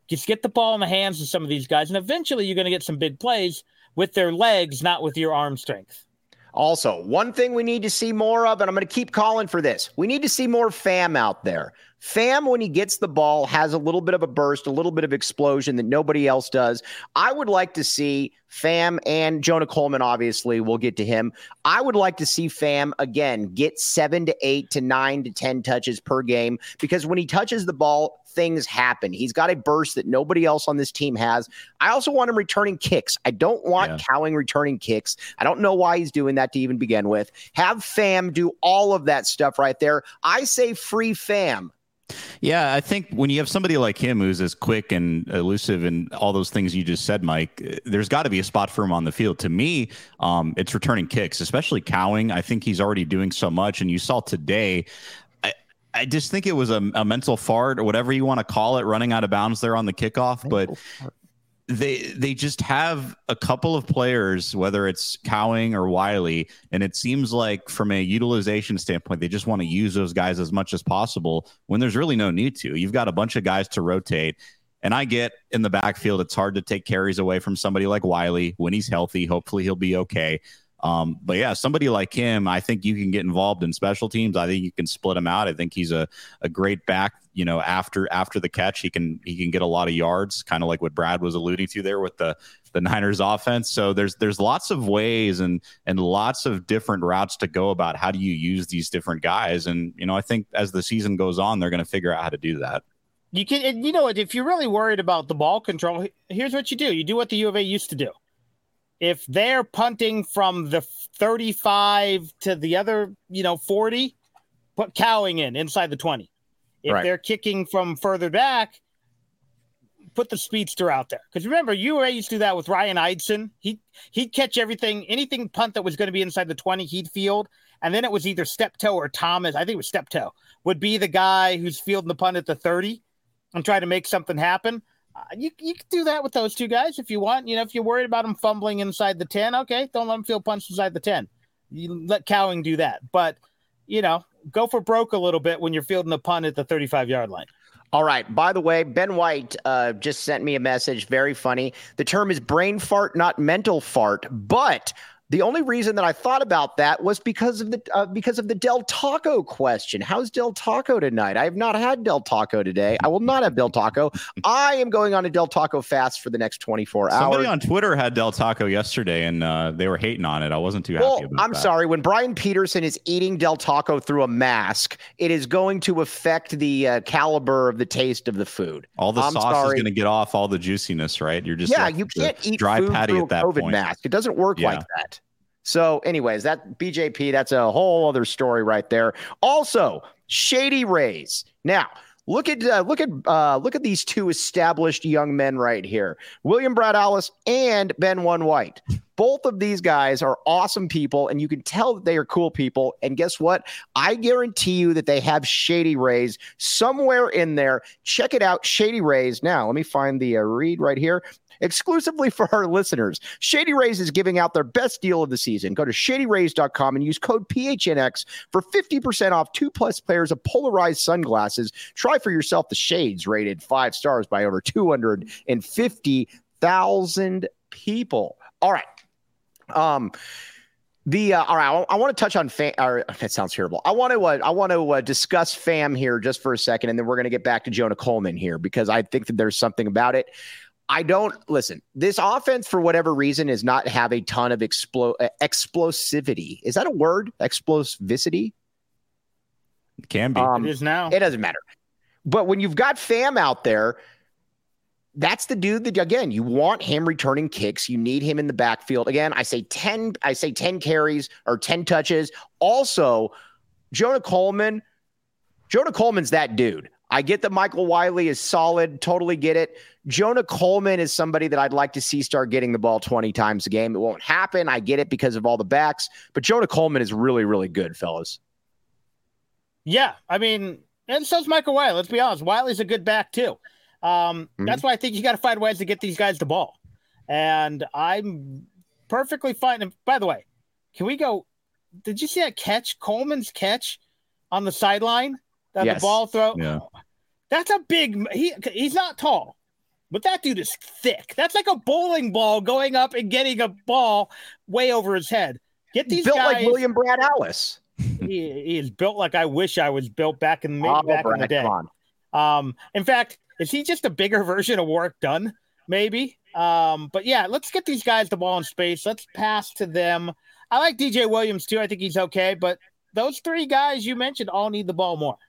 Just get the ball in the hands of some of these guys, and eventually you're going to get some big plays with their legs, not with your arm strength. Also, one thing we need to see more of, and I'm going to keep calling for this, we need to see more Fam out there. Fam, when he gets the ball, has a little bit of a burst, a little bit of explosion that nobody else does. I would like to see Fam and Jonah Coleman, obviously, we'll get to him. I would like to see Fam, again, get seven to eight to nine to ten touches per game, because when he touches the ball, things happen. He's got a burst that nobody else on this team has. I also want him returning kicks. I don't want yeah. Cowing returning kicks. I don't know why he's doing that to even begin with. Have Fam do all of that stuff right there. I say free Fam. Yeah, I think when you have somebody like him who's as quick and elusive and all those things you just said, Mike, there's got to be a spot for him on the field. To me, um, it's returning kicks, especially Cowing. I think he's already doing so much. And you saw today, I, I just think it was a, a mental fart or whatever you want to call it, running out of bounds there on the kickoff. But they they just have a couple of players, whether it's Cowing or Wiley, and it seems like from a utilization standpoint, they just want to use those guys as much as possible when there's really no need to. You've got a bunch of guys to rotate, and I get in the backfield, it's hard to take carries away from somebody like Wiley when he's healthy. Hopefully he'll be okay. Um, but yeah, somebody like him, I think you can get involved in special teams. I think you can split him out. I think he's a, a great back, you know, after, after the catch, he can, he can get a lot of yards, kind of like what Brad was alluding to there with the, the Niners offense. So there's, there's lots of ways and, and lots of different routes to go about how do you use these different guys. And, you know, I think as the season goes on, they're going to figure out how to do that. You can, and you know what, if you're really worried about the ball control, here's what you do. You do what the U of A used to do. If they're punting from the thirty-five to the other, you know, forty, put Cowing in inside the twenty. If right. they're kicking from further back, put the speedster out there. Because remember, U of A used to do that with Ryan Eidson. He, he'd catch everything, anything punt that was going to be inside the twenty, he'd field. And then it was either Steptoe or Thomas, I think it was Steptoe, would be the guy who's fielding the punt at the thirty and try to make something happen. Uh, you you can do that with those two guys if you want. You know, if you're worried about them fumbling inside the ten, okay, don't let them field punch inside the ten. You let Cowing do that. But, you know, go for broke a little bit when you're fielding the punt at the thirty-five-yard line. All right. By the way, Ben White uh, just sent me a message. Very funny. The term is brain fart, not mental fart. But the only reason that I thought about that was because of the uh, because of the Del Taco question. How's Del Taco tonight? I have not had Del Taco today. I will not have Del Taco. I am going on a Del Taco fast for the next twenty-four hours. Somebody on Twitter had Del Taco yesterday, and uh, they were hating on it. I wasn't too well, happy about I'm that. sorry. When Brian Peterson is eating Del Taco through a mask, it is going to affect the uh, caliber of the taste of the food. All the I'm sauce sorry. is going to get off all the juiciness, right? You're just yeah, like you can't eat dry food patty through at that a COVID point. mask. It doesn't work Yeah. like that. So anyways, that B J P, that's a whole other story right there. Also, Shady Rays. Now, look at uh, look at uh, look at these two established young men right here. William Brad Allis and Ben One White. Both of these guys are awesome people, and you can tell that they are cool people. And guess what? I guarantee you that they have Shady Rays somewhere in there. Check it out, Shady Rays. Now, let me find the uh, read right here. Exclusively for our listeners, Shady Rays is giving out their best deal of the season. Go to shady rays dot com and use code P H N X for fifty percent off two plus pairs of polarized sunglasses. Try for yourself the shades rated five stars by over two hundred fifty thousand people. All right. Um, The uh, all right, I, I want to touch on fam. Or, that sounds terrible. I want to uh, I want to uh, discuss Fam here just for a second, and then we're going to get back to Jonah Coleman here because I think that there's something about it. I don't listen. This offense, for whatever reason, is not have a ton of explo- uh, explosivity. Is that a word? Explosivity? It can be. Um, it is now. It doesn't matter. But when you've got Fam out there, that's the dude that, again, you want him returning kicks. You need him in the backfield. Again, I say ten, I say ten carries or ten touches. Also, Jonah Coleman, Jonah Coleman's that dude. I get that Michael Wiley is solid. Totally get it. Jonah Coleman is somebody that I'd like to see start getting the ball twenty times a game. It won't happen. I get it because of all the backs, but Jonah Coleman is really, really good, fellas. Yeah. I mean, and so's Michael Wiley. Let's be honest. Wiley's a good back too. Um, mm-hmm. That's why I think you got to find ways to get these guys the ball. And I'm perfectly fine. And by the way, can we go? Did you see that catch? Coleman's catch on the sideline? That yes. the ball throw? Yeah. That's a big, he, he's not tall. but that dude is thick. That's like a bowling ball going up and getting a ball way over his head. Get these built guys, like William Brad Ellis. He, he is built like I wish I was built back in the Oh, back Brad, in the day. come Um, in fact, is he just a bigger version of Warrick Dunn? Maybe. Um, but yeah, let's get these guys the ball in space. Let's pass to them. I like D J Williams too. I think he's okay, but those three guys you mentioned all need the ball more.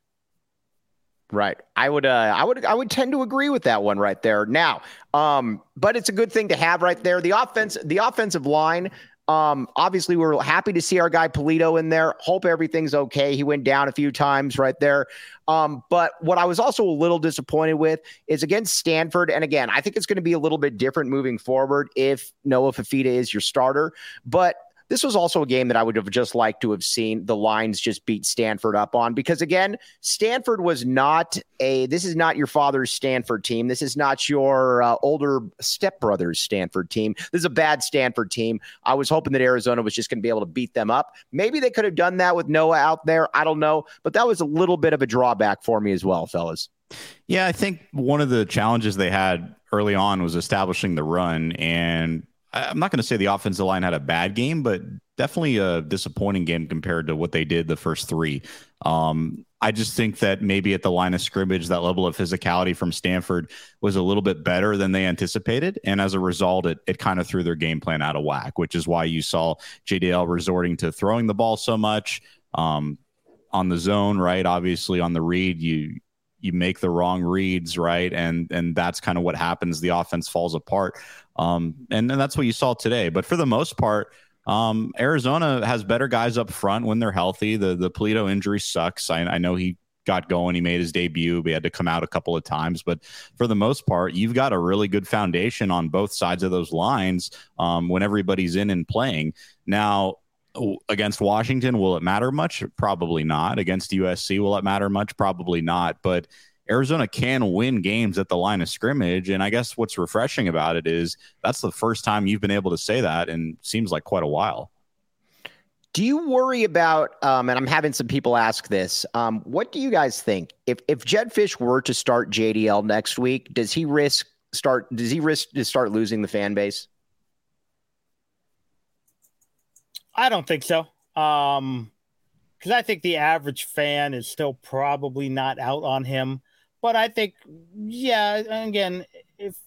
Right. I would, uh, I would, I would tend to agree with that one right there now. Um, but it's a good thing to have right there. The offense, the offensive line, um, obviously we're happy to see our guy Polito in there. Hope everything's okay. He went down a few times right there. Um, but what I was also a little disappointed with is against Stanford. And again, I think it's going to be a little bit different moving forward if Noah Fifita is your starter, but this was also a game that I would have just liked to have seen the Lions just beat Stanford up on, because again, Stanford was not a, this is not your father's Stanford team. This is not your uh, older stepbrother's Stanford team. This is a bad Stanford team. I was hoping that Arizona was just going to be able to beat them up. Maybe they could have done that with Noah out there. I don't know, but that was a little bit of a drawback for me as well, fellas. Yeah, I think one of the challenges they had early on was establishing the run, and I'm not going to say the offensive line had a bad game, but definitely a disappointing game compared to what they did the first three. Um, I just think that maybe at the line of scrimmage, that level of physicality from Stanford was a little bit better than they anticipated. And as a result, it, it kind of threw their game plan out of whack, which is why you saw J D L resorting to throwing the ball so much um, on the zone, right? Obviously on the read, you you make the wrong reads, right? And and that's kind of what happens. The offense falls apart. Um, and, and that's what you saw today. But for the most part, um, Arizona has better guys up front when they're healthy. The the Polito injury sucks. I, I know he got going. He made his debut. He had to come out a couple of times. But for the most part, you've got a really good foundation on both sides of those lines um, when everybody's in and playing. Now, against Washington, will it matter much? Probably not. Against U S C, will it matter much? Probably not. But Arizona can win games at the line of scrimmage. And I guess what's refreshing about it is that's the first time you've been able to say that in seems like quite a while. Do you worry about, um, and I'm having some people ask this, um, what do you guys think? If if Jedd Fisch were to start J D L next week, does he risk start does he risk to start losing the fan base? I don't think so. Um, because I think the average fan is still probably not out on him. But I think, yeah, again, if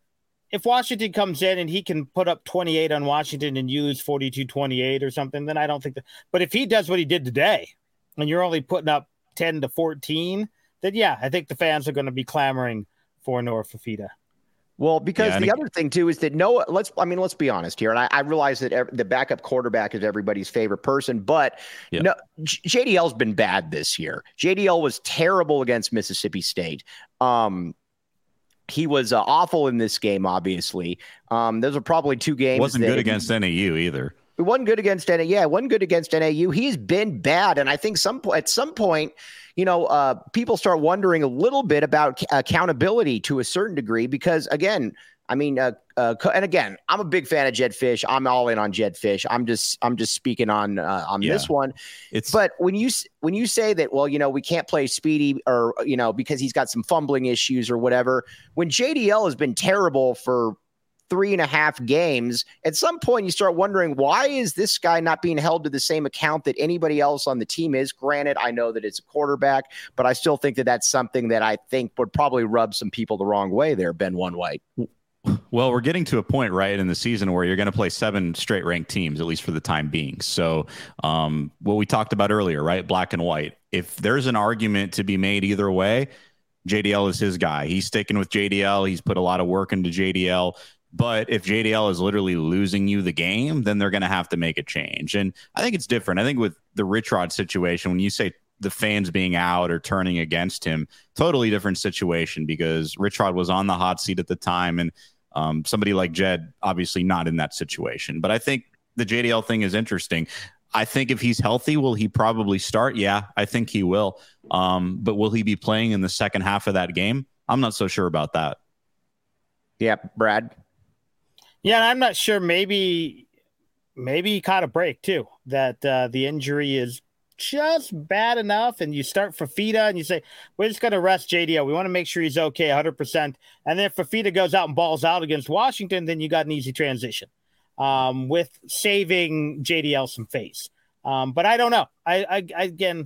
if Washington comes in and he can put up twenty-eight on Washington and use forty-two twenty-eight or something, then I don't think that. But if he does what he did today, and you're only putting up ten to fourteen, then yeah, I think the fans are going to be clamoring for Noah Fifita. Well, because yeah, the it, other thing too is that Noah, let's, I mean, let's be honest here. And I, I realize that every, the backup quarterback is everybody's favorite person, but yeah. no, J D L's been bad this year. J D L was terrible against Mississippi State. Um, he was uh, awful in this game, obviously. Um, those are probably two games. Wasn't that, good against N A U either. It wasn't good against N A U. Yeah, it wasn't good against N A U. He's been bad. And I think some at some point, you know, uh, people start wondering a little bit about accountability to a certain degree, because again, I mean, uh, uh, and again, I'm a big fan of Jedd Fisch. I'm all in on Jedd Fisch. I'm just, I'm just speaking on uh, on yeah. this one. It's but when you when you say that, well, you know, we can't play Speedy, or you know, because he's got some fumbling issues or whatever. When J D L has been terrible for three and a half games, at some point you start wondering, why is this guy not being held to the same account that anybody else on the team is? Granted, I know that it's a quarterback, but I still think that that's something that I think would probably rub some people the wrong way there, Ben One White. Well, we're getting to a point, right, in the season where you're going to play seven straight ranked teams, at least for the time being. So um, what we talked about earlier, right, black and white, if there's an argument to be made either way, J D L is his guy. He's sticking with J D L. He's put a lot of work into J D L. But if J D L is literally losing you the game, then they're going to have to make a change. And I think it's different. I think with the Rich Rod situation, when you say the fans being out or turning against him, totally different situation, because Rich Rod was on the hot seat at the time, and um, somebody like Jed, obviously not in that situation. But I think the J D L thing is interesting. I think if he's healthy, will he probably start? Yeah, I think he will. Um, but will he be playing in the second half of that game? I'm not so sure about that. Yeah, Brad. Yeah, I'm not sure. Maybe, maybe he caught a break too. That uh, the injury is just bad enough, and you start Fifita and you say, we're just going to rest J D L. We want to make sure he's okay one hundred percent. And then if Fifita goes out and balls out against Washington, then you got an easy transition um, with saving J D L some face. Um, but I don't know. I, I, I again,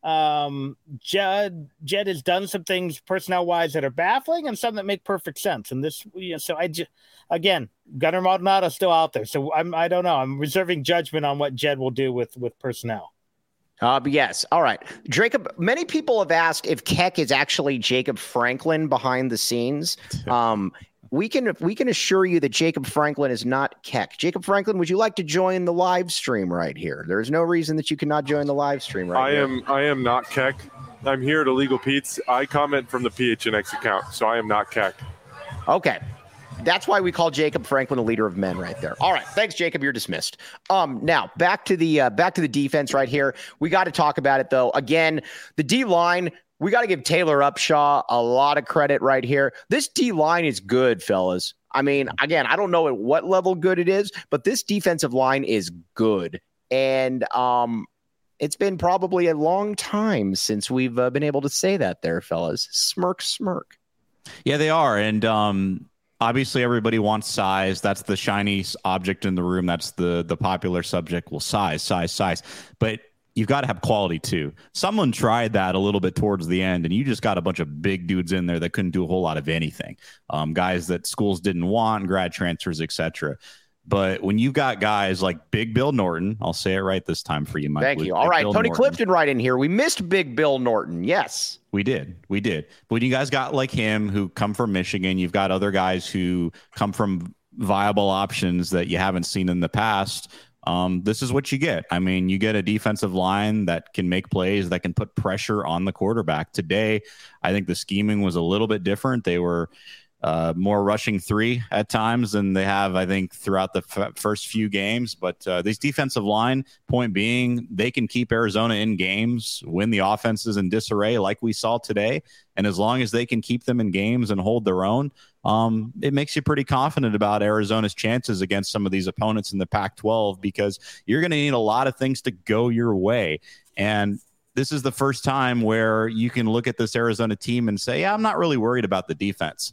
um, Jed, Jed has done some things personnel-wise that are baffling and some that make perfect sense. And this, you know, so I just, again, Gunnar Maldonado's still out there. So I'm, I don't know. I'm reserving judgment on what Jed will do with, with personnel. Uh, but yes. All right. Jacob, many people have asked if Keck is actually Jacob Franklin behind the scenes. Um, we can we can assure you that Jacob Franklin is not Keck. Jacob Franklin, would you like to join the live stream right here? There's no reason that you cannot join the live stream right I here. am I am not Keck. I'm here at Illegal Pete's. I comment from the P H N X account, so I am not Keck. Okay. That's why we call Jacob Franklin a leader of men right there. All right. Thanks, Jacob. You're dismissed. Um, now back to the uh, back to the defense right here. We got to talk about it, though. Again, the D line, we got to give Taylor Upshaw a lot of credit right here. This D line is good, fellas. I mean, again, I don't know at what level good it is, but this defensive line is good. And um, it's been probably a long time since we've uh, been able to say that there, fellas. Smirk, smirk. Yeah, they are. And, um, obviously, everybody wants size. That's the shiny object in the room. That's the the popular subject. Well, size, size, size. But you've got to have quality, too. Someone tried that a little bit towards the end, and you just got a bunch of big dudes in there that couldn't do a whole lot of anything. Um, guys that schools didn't want, grad transfers, et cetera. But when you've got guys like Big Bill Norton, I'll say it right this time for you, Mike. Thank you. All right, Tony Clifton right in here. We missed Big Bill Norton. Yes. We did. We did. But when you guys got like him who come from Michigan, you've got other guys who come from viable options that you haven't seen in the past. Um, this is what you get. I mean, you get a defensive line that can make plays, that can put pressure on the quarterback. Today, I think the scheming was a little bit different. They were uh, more rushing three at times than they have, I think, throughout the f- first few games. But uh, these defensive line, point being, they can keep Arizona in games, win the offenses in disarray like we saw today. And as long as they can keep them in games and hold their own, um, it makes you pretty confident about Arizona's chances against some of these opponents in the Pac twelve, because you're going to need a lot of things to go your way. And this is the first time where you can look at this Arizona team and say, yeah, I'm not really worried about the defense.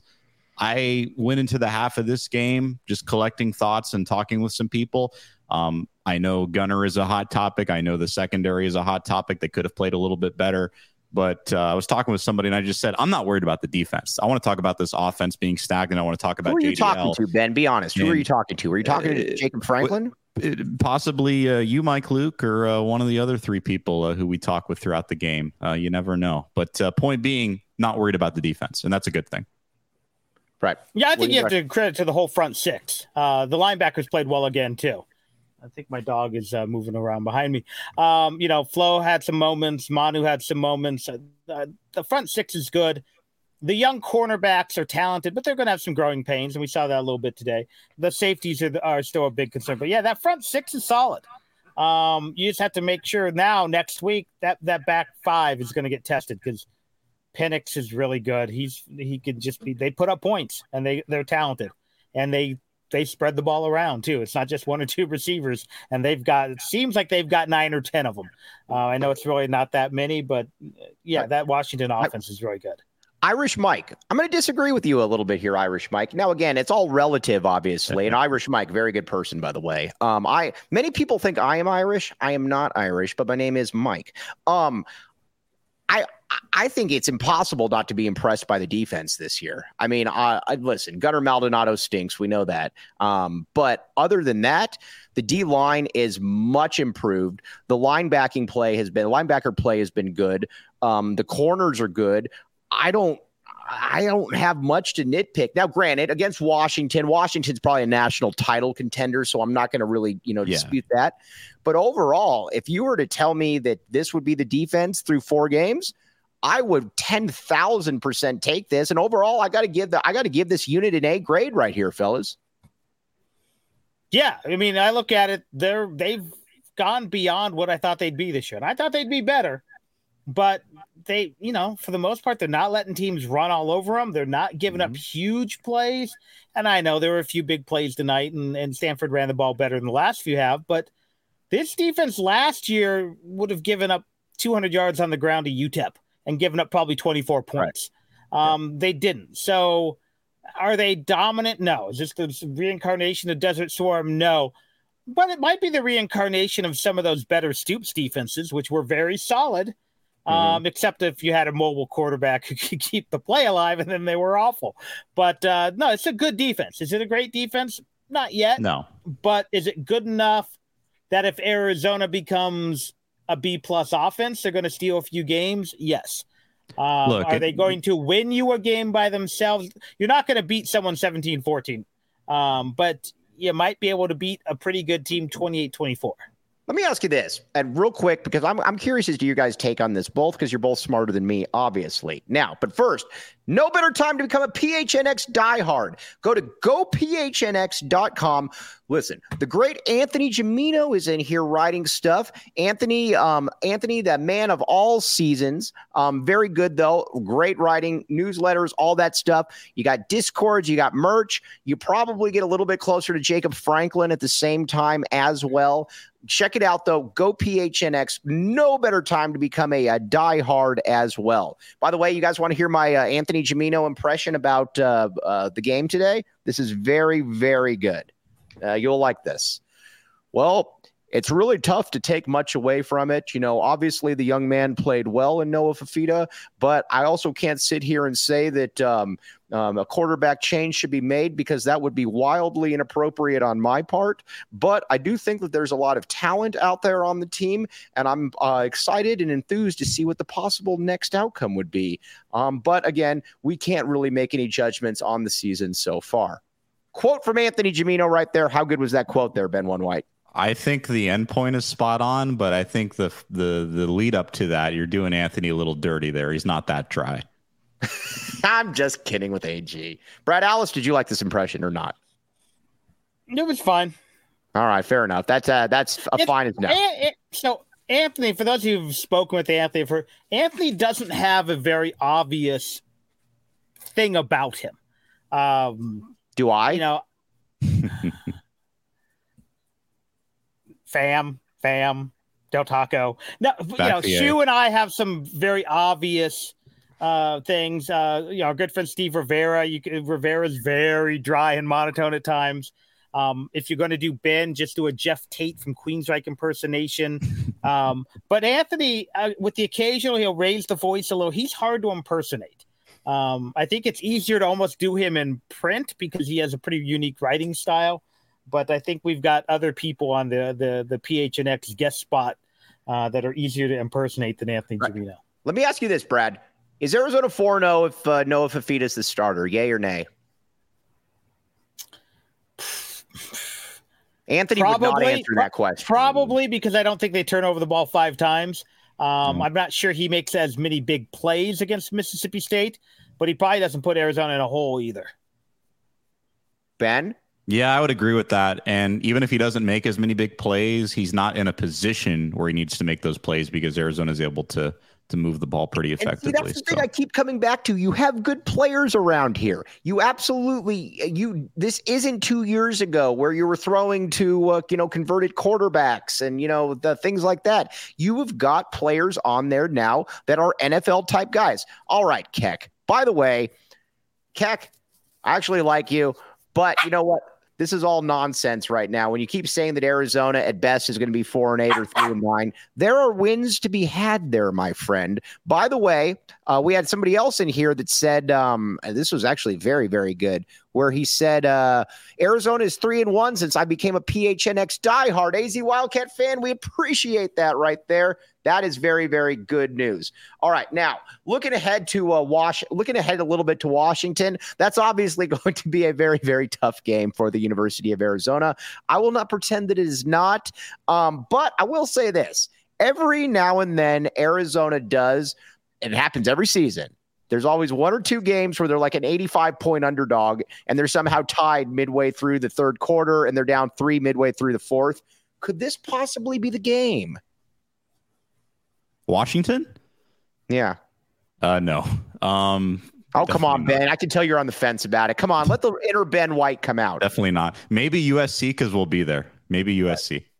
I went into the half of this game just collecting thoughts and talking with some people. Um, I know Gunnar is a hot topic. I know the secondary is a hot topic. They could have played a little bit better. But uh, I was talking with somebody, and I just said, I'm not worried about the defense. I want to talk about this offense being stagnant. I want to talk about Who are you J D L. talking to, Ben? Be honest. Who and, are you talking to? Were you talking to uh, Jacob Franklin? It, possibly uh, you, Mike Luke, or uh, one of the other three people uh, who we talk with throughout the game. Uh, you never know. But uh, point being, not worried about the defense, and that's a good thing. Right. Yeah, I What think do you you have to credit to the whole front six. Uh, the linebackers played well again, too. I think my dog is uh, moving around behind me. Um, you know, Flo had some moments. Manu had some moments. Uh, the front six is good. The young cornerbacks are talented, but they're going to have some growing pains, and we saw that a little bit today. The safeties are, are still a big concern. But, yeah, that front six is solid. Um, you just have to make sure now, next week, that, that back five is going to get tested, because Penix is really good. He's he can just be. They put up points, and they they're talented, and they they spread the ball around too. It's not just one or two receivers, and they've got. It seems like they've got nine or ten of them. Uh, I know it's really not that many, but yeah, that Washington offense is really good. Irish Mike, I'm going to disagree with you a little bit here, Irish Mike. Now, again, it's all relative, obviously. And Irish Mike, very good person, by the way. Um, I many people think I am Irish. I am not Irish, but my name is Mike. Um, I I think it's impossible not to be impressed by the defense this year. I mean, uh, I, listen, Gunnar Maldonado stinks. We know that. Um, but other than that, the D line is much improved. The linebacking play has been linebacker play has been good. Um, the corners are good. I don't. I don't have much to nitpick. Now, granted, against Washington, Washington's probably a national title contender, so I'm not going to really, you know, Yeah. dispute that. But overall, if you were to tell me that this would be the defense through four games, I would ten thousand percent take this. And overall, I got to give the I got to give this unit an A grade right here, fellas. Yeah, I mean, I look at it. They're they've gone beyond what I thought they'd be this year. And I thought they'd be better, but they, you know, for the most part, they're not letting teams run all over them. They're not giving Mm-hmm. up huge plays. And I know there were a few big plays tonight, and, and Stanford ran the ball better than the last few have, but This defense last year would have given up two hundred yards on the ground to U T E P and given up probably twenty-four points. Right. Um, yeah. They didn't. So are they dominant? No. Is this the reincarnation of Desert Swarm? No. But it might be the reincarnation of some of those better Stoops defenses, which were very solid, mm-hmm. um, except if you had a mobile quarterback who could keep the play alive, and then they were awful. But uh, no, it's a good defense. Is it a great defense? Not yet. No. But is it good enough that if Arizona becomes a B-plus offense, they're going to steal a few games? Yes. Uh, Look, are they it, going to win you a game by themselves? You're not going to beat someone seventeen fourteen, um, but you might be able to beat a pretty good team twenty-eight twenty-four. Let me ask you this, and real quick, because I'm I'm curious as to your guys' take on this, both because you're both smarter than me, obviously. Now, but first, no better time to become a P H N X diehard. Go to go P H N X dot com. Listen, the great Anthony Gimino is in here writing stuff. Anthony, um, Anthony, the man of all seasons. Um, very good, though. Great writing, newsletters, all that stuff. You got Discords, you got merch. You probably get a little bit closer to Jacob Franklin at the same time as well. Check it out, though. Go P H N X. No better time to become a, a diehard as well. By the way, you guys want to hear my uh, Anthony Gimino impression about uh, uh, the game today? This is very, very good. Uh, you'll like this. Well, it's really tough to take much away from it. You know, obviously the young man played well in Noah Fifita, but I also can't sit here and say that um, um, a quarterback change should be made because that would be wildly inappropriate on my part. But I do think that there's a lot of talent out there on the team, and I'm uh, excited and enthused to see what the possible next outcome would be. Um, but again, we can't really make any judgments on the season so far. Quote from Anthony Gimino right there. How good was that quote there, Ben One White? I think the end point is spot on, but I think the the the lead up to that, you're doing Anthony a little dirty there. He's not that dry. I'm just kidding with A G. Brad Alice, did you like this impression or not? It was fine. All right, fair enough. That's uh, that's a fine as no. So Anthony, for those who've spoken with Anthony, for Anthony doesn't have a very obvious thing about him. Um, Do I? You know. Fam, fam, Del Taco. No, you know, Shu and I have some very obvious uh, things. Uh, you know, our good friend Steve Rivera. You Rivera's very dry and monotone at times. Um, if you're going to do Ben, just do a Jeff Tate from Queensryche impersonation. um, but Anthony, uh, with the occasional, he'll raise the voice a little. He's hard to impersonate. Um, I think it's easier to almost do him in print because he has a pretty unique writing style. But I think we've got other people on the the, the P H N X guest spot uh, that are easier to impersonate than Anthony right. Gimino. Let me ask you this, Brad. Is Arizona four and oh if uh, Noah Fifita is the starter? Yay or nay? Anthony probably, would not answer that question. Probably because I don't think they turn over the ball five times. Um, mm-hmm. I'm not sure he makes as many big plays against Mississippi State, but he probably doesn't put Arizona in a hole either. Ben? Yeah, I would agree with that. And even if he doesn't make as many big plays, he's not in a position where he needs to make those plays because Arizona is able to to move the ball pretty effectively. And see, that's the thing so. I keep coming back to. You have good players around here. You absolutely you. This isn't two years ago where you were throwing to uh, you know converted quarterbacks and you know the things like that. You have got players on there now that are N F L type guys. All right, Keck. By the way, Keck, I actually like you, but you know what? This is all nonsense right now. When you keep saying that Arizona at best is going to be four and eight or three and nine, there are wins to be had there, my friend. By the way, uh, we had somebody else in here that said um, this was actually very, very good. Where he said uh, Arizona is three and one since I became a P H N X diehard A Z Wildcat fan. We appreciate that right there. That is very, very good news. All right, now looking ahead to uh, Wash, looking ahead a little bit to Washington. That's obviously going to be a very, very tough game for the University of Arizona. I will not pretend that it is not, um, but I will say this: every now and then, Arizona does. It happens every season. There's always one or two games where they're like an eighty-five point underdog and they're somehow tied midway through the third quarter and they're down three midway through the fourth. Could this possibly be the game? Washington? Yeah. Uh, no. Um, oh, come on, Ben. Not. I can tell you're on the fence about it. Come on. Let the inner Ben White come out. Definitely not. Maybe U S C because we'll be there. Maybe U S C.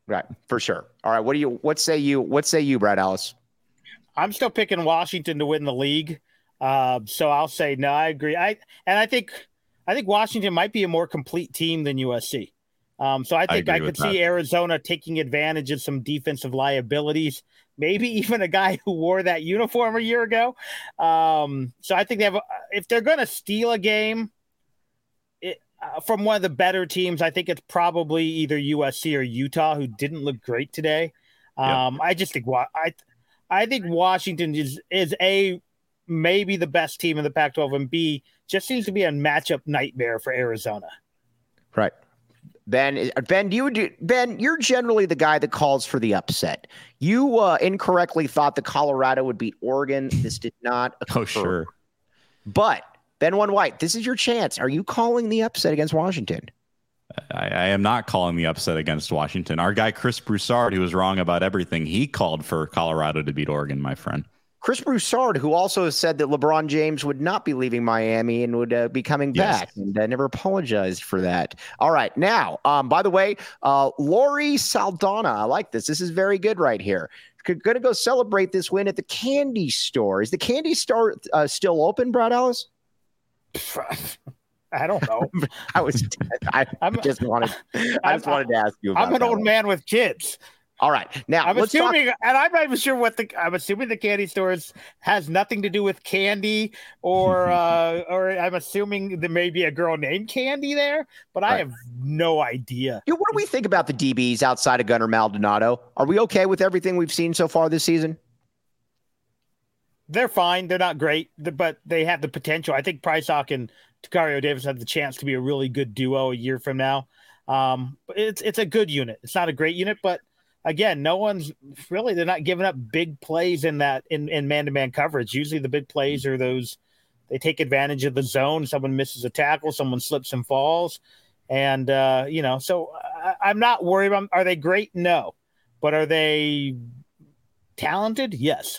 Right, for sure. All right, what do you? What say you? What say you, Brad Ellis? I'm still picking Washington to win the league. Uh, so I'll say no. I agree. I and I think I think Washington might be a more complete team than U S C. Um, so I think I, I could see Arizona taking advantage of some defensive liabilities. Maybe even a guy who wore that uniform a year ago. Um, so I think they have. If they're going to steal a game it, uh, from one of the better teams, I think it's probably either U S C or Utah, who didn't look great today. Um, yeah. I just think I. I think Washington is is a maybe the best team in the Pac twelve, and B just seems to be a matchup nightmare for Arizona. Right, Ben. Ben, do you do Ben? You're generally the guy that calls for the upset. You uh, incorrectly thought that Colorado would beat Oregon. This did not occur. Oh, sure. But Ben One White, this is your chance. Are you calling the upset against Washington? I, I am not calling the upset against Washington. Our guy, Chris Broussard, who was wrong about everything, he called for Colorado to beat Oregon, my friend. Chris Broussard, who also said that LeBron James would not be leaving Miami and would uh, be coming yes. back, and uh, never apologized for that. All right. Now, um, by the way, uh, Lori Saldana, I like this. This is very good right here. Going to go celebrate this win at the candy store. Is the candy store uh, still open, Brad Ellis? I don't know. I was. I I'm, just wanted. I just wanted to ask you. About I'm an that old one. man with kids. All right, now I'm let's assuming, talk- and I'm not even sure what the. I'm assuming the candy stores has nothing to do with candy, or uh, or I'm assuming there may be a girl named Candy there, but I right. have no idea. Yeah, what do we think about the D Bs outside of Gunnar Maldonado? Are we okay with everything we've seen so far this season? They're fine. They're not great, but they have the potential. I think Price Hawk and Takario Davis have the chance to be a really good duo a year from now. Um, but it's it's a good unit. It's not a great unit, but again, no one's really they're not giving up big plays in that in, in man-to-man coverage. Usually the big plays are those they take advantage of the zone. Someone misses a tackle, someone slips and falls. And uh, you know, so I, I'm not worried about are they great? No. But are they talented? Yes.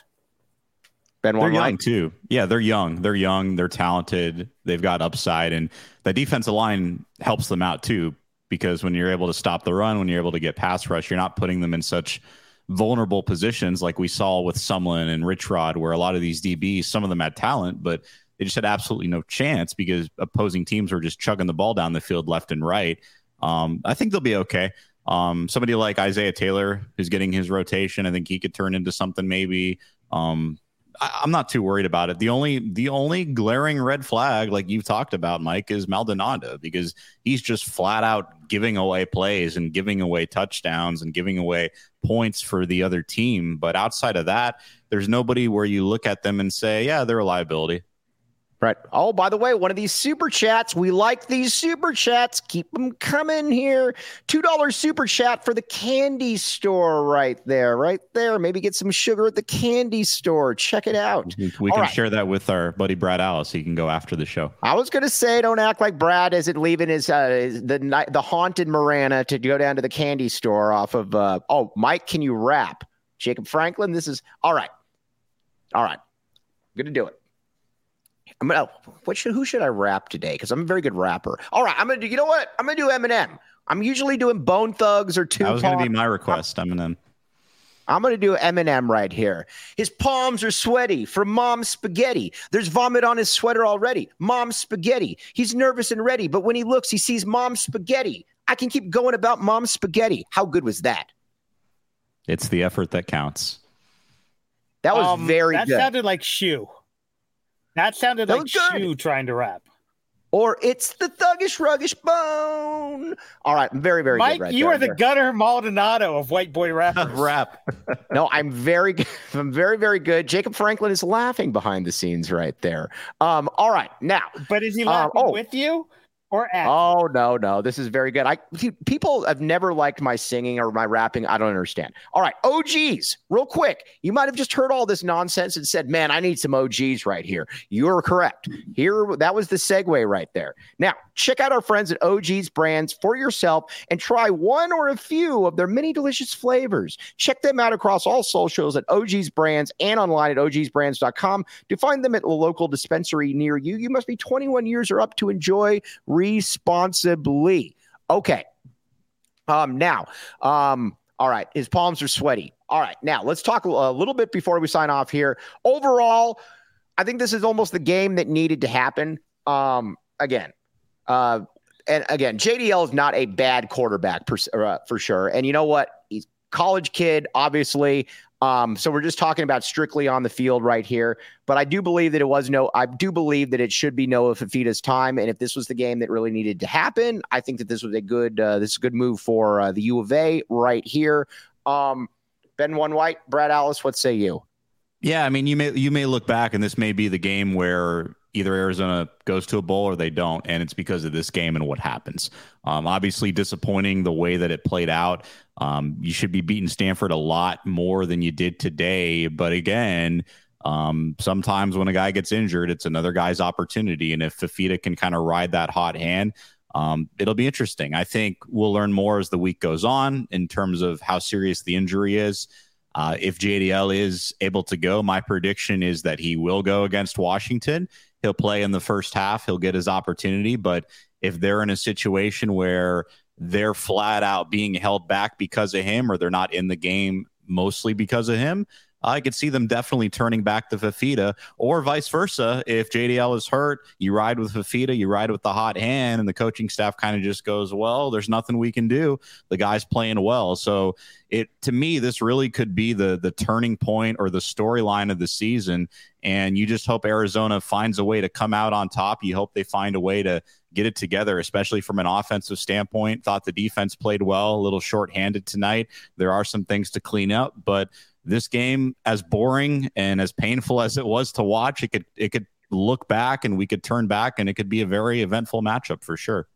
Ben they're young too. Yeah, they're young. They're young. They're talented. They've got upside, and the defensive line helps them out too. Because when you're able to stop the run, when you're able to get pass rush, you're not putting them in such vulnerable positions like we saw with Sumlin and Rich Rod, where a lot of these D Bs, some of them had talent, but they just had absolutely no chance because opposing teams were just chugging the ball down the field left and right. Um, I think they'll be okay. Um, somebody like Isaiah Taylor, who's getting his rotation, I think he could turn into something maybe. Um, I, I'm not too worried about it. The only the only glaring red flag, like you've talked about, Mike, is Maldonado, because he's just flat out giving away plays and giving away touchdowns and giving away points for the other team. But outside of that, there's nobody where you look at them and say, yeah, they're a liability. Right. Oh, by the way, one of these super chats. We like these super chats. Keep them coming here. two dollars super chat for the candy store right there. Right there. Maybe get some sugar at the candy store. Check it out. We, we can right. share that with our buddy Brad Ellis. He can go after the show. I was going to say, don't act like Brad isn't leaving his uh, the the haunted Marana to go down to the candy store off of. Uh, oh, Mike, can you rap? Jacob Franklin, this is all right. All right. I'm going to do it. I'm gonna. What should? Who should I rap today? Because I'm a very good rapper. All right, I'm gonna do. You know what? I'm gonna do Eminem. I'm usually doing Bone Thugs or Tupac. That was gonna be my request. Eminem. I'm gonna do Eminem right here. His palms are sweaty from mom's spaghetti. There's vomit on his sweater already. Mom's spaghetti. He's nervous and ready, but when he looks, he sees mom's spaghetti. I can keep going about mom's spaghetti. How good was that? It's the effort that counts. That was um, very that good. That sounded like Shoe. That sounded that like Shoe trying to rap. Or it's the thuggish, ruggish bone. All right, I'm very, very Mike, good right you there. are the Gunnar Maldonado of white boy rappers. Rap. No, I'm very good. I'm very, very good. Jacob Franklin is laughing behind the scenes right there. Um, all right, now. But is he laughing um, oh. with you? Or at oh no no this is very good. I people have never liked my singing or my rapping. I don't understand. All right, O Gs, real quick. You might have just heard all this nonsense and said, "Man, I need some O Gs right here." You're correct. Here, that was the segue right there. Now, check out our friends at O Gs Brands for yourself and try one or a few of their many delicious flavors. Check them out across all socials at O Gs Brands and online at O Gs brands dot com. To find them at a local dispensary near you, you must be twenty-one years or up to enjoy responsibly. Okay. Um, now, um, All right. His palms are sweaty. All right. Now let's talk a little bit before we sign off here. Overall, I think this is almost the game that needed to happen. Um, again, uh, and again, J D L is not a bad quarterback per, uh, for sure. And you know what? He's a college kid, obviously. Um, so we're just talking about strictly on the field right here. But I do believe that it was no, I do believe that it should be Noah Fifita's time. And if this was the game that really needed to happen, I think that this was a good, uh, this is a good move for uh, the U of A right here. Um, Ben One White, Brad Alice, what say you? Yeah, I mean, you may you may look back, and this may be the game where either Arizona goes to a bowl or they don't, and it's because of this game and what happens. Um, obviously, disappointing the way that it played out. Um, you should be beating Stanford a lot more than you did today. But again, um, sometimes when a guy gets injured, it's another guy's opportunity. And if Fifita can kind of ride that hot hand, um, it'll be interesting. I think we'll learn more as the week goes on in terms of how serious the injury is. Uh, if J D L is able to go, my prediction is that he will go against Washington. He'll play in the first half. He'll get his opportunity. But if they're in a situation where they're flat out being held back because of him, or they're not in the game mostly because of him, I could see them definitely turning back to Fifita, or vice versa. If J D L is hurt, you ride with Fifita, you ride with the hot hand, and the coaching staff kind of just goes, well, there's nothing we can do. The guy's playing well. So it, to me, this really could be the, the turning point or the storyline of the season. And you just hope Arizona finds a way to come out on top. You hope they find a way to get it together, especially from an offensive standpoint. Thought the defense played well, a little shorthanded tonight. There are some things to clean up, but this game, as boring and as painful as it was to watch, it could it could look back and we could turn back and it could be a very eventful matchup for sure.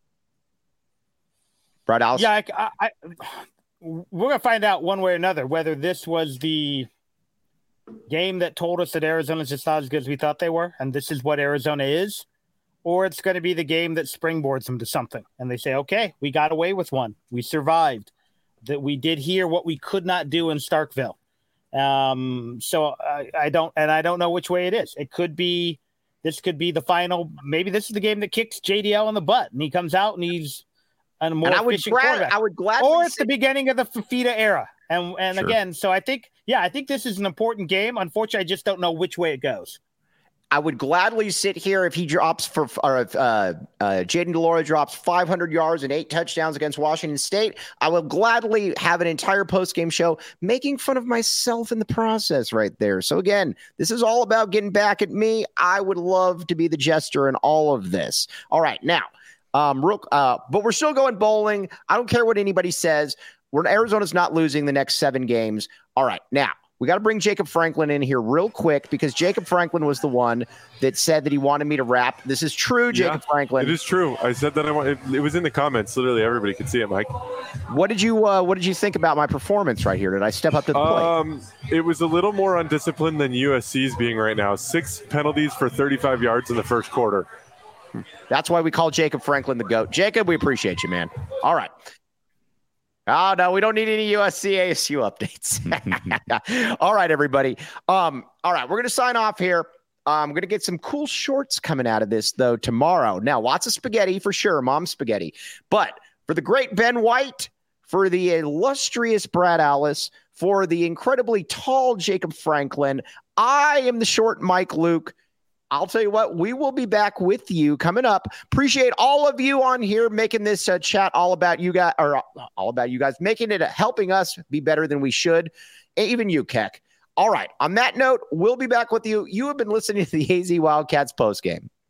Brad Alice? Yeah, I, I, we're going to find out one way or another whether this was the game that told us that Arizona's just not as good as we thought they were, and this is what Arizona is, or it's going to be the game that springboards them to something. And they say, okay, we got away with one. We survived. That we did here what we could not do in Starkville. Um, so I, I don't, and I don't know which way it is. It could be, this could be the final. Maybe this is the game that kicks J D L in the butt, and he comes out and he's a more and I would efficient glad, quarterback. I would gladly or it's say- the beginning of the Fifita era. And and Sure. again, so I think, yeah, I think this is an important game. Unfortunately, I just don't know which way it goes. I would gladly sit here if he drops for, or if uh, uh, Jaden DeLore drops five hundred yards and eight touchdowns against Washington State. I will gladly have an entire post-game show making fun of myself in the process right there. So again, this is all about getting back at me. I would love to be the jester in all of this. All right, now, um, real, uh, but we're still going bowling. I don't care what anybody says. We're Arizona's not losing the next seven games. All right, now. We got to bring Jacob Franklin in here real quick because Jacob Franklin was the one that said that he wanted me to rap. This is true, Jacob Yeah, Franklin. It is true. I said that I want. It, it was in the comments. Literally, everybody could see it, Mike. What did you uh, What did you think about my performance right here? Did I step up to the plate? Um, it was a little more undisciplined than U S C's being right now. Six penalties for thirty-five yards in the first quarter. That's why we call Jacob Franklin the GOAT. Jacob, we appreciate you, man. All right. Oh, no, we don't need any U S C A S U updates. All right, everybody. Um, all right, we're going to sign off here. I'm going to get some cool shorts coming out of this, though, tomorrow. Now, lots of spaghetti for sure, mom spaghetti. But for the great Ben White, for the illustrious Brad Alice, for the incredibly tall Jacob Franklin, I am the short Mike Luke. I'll tell you what, we will be back with you coming up. Appreciate all of you on here making this uh, chat all about you guys, or uh, all about you guys, making it, uh, helping us be better than we should. Even you, Keck. All right. On that note, we'll be back with you. You have been listening to the A Z Wildcats postgame.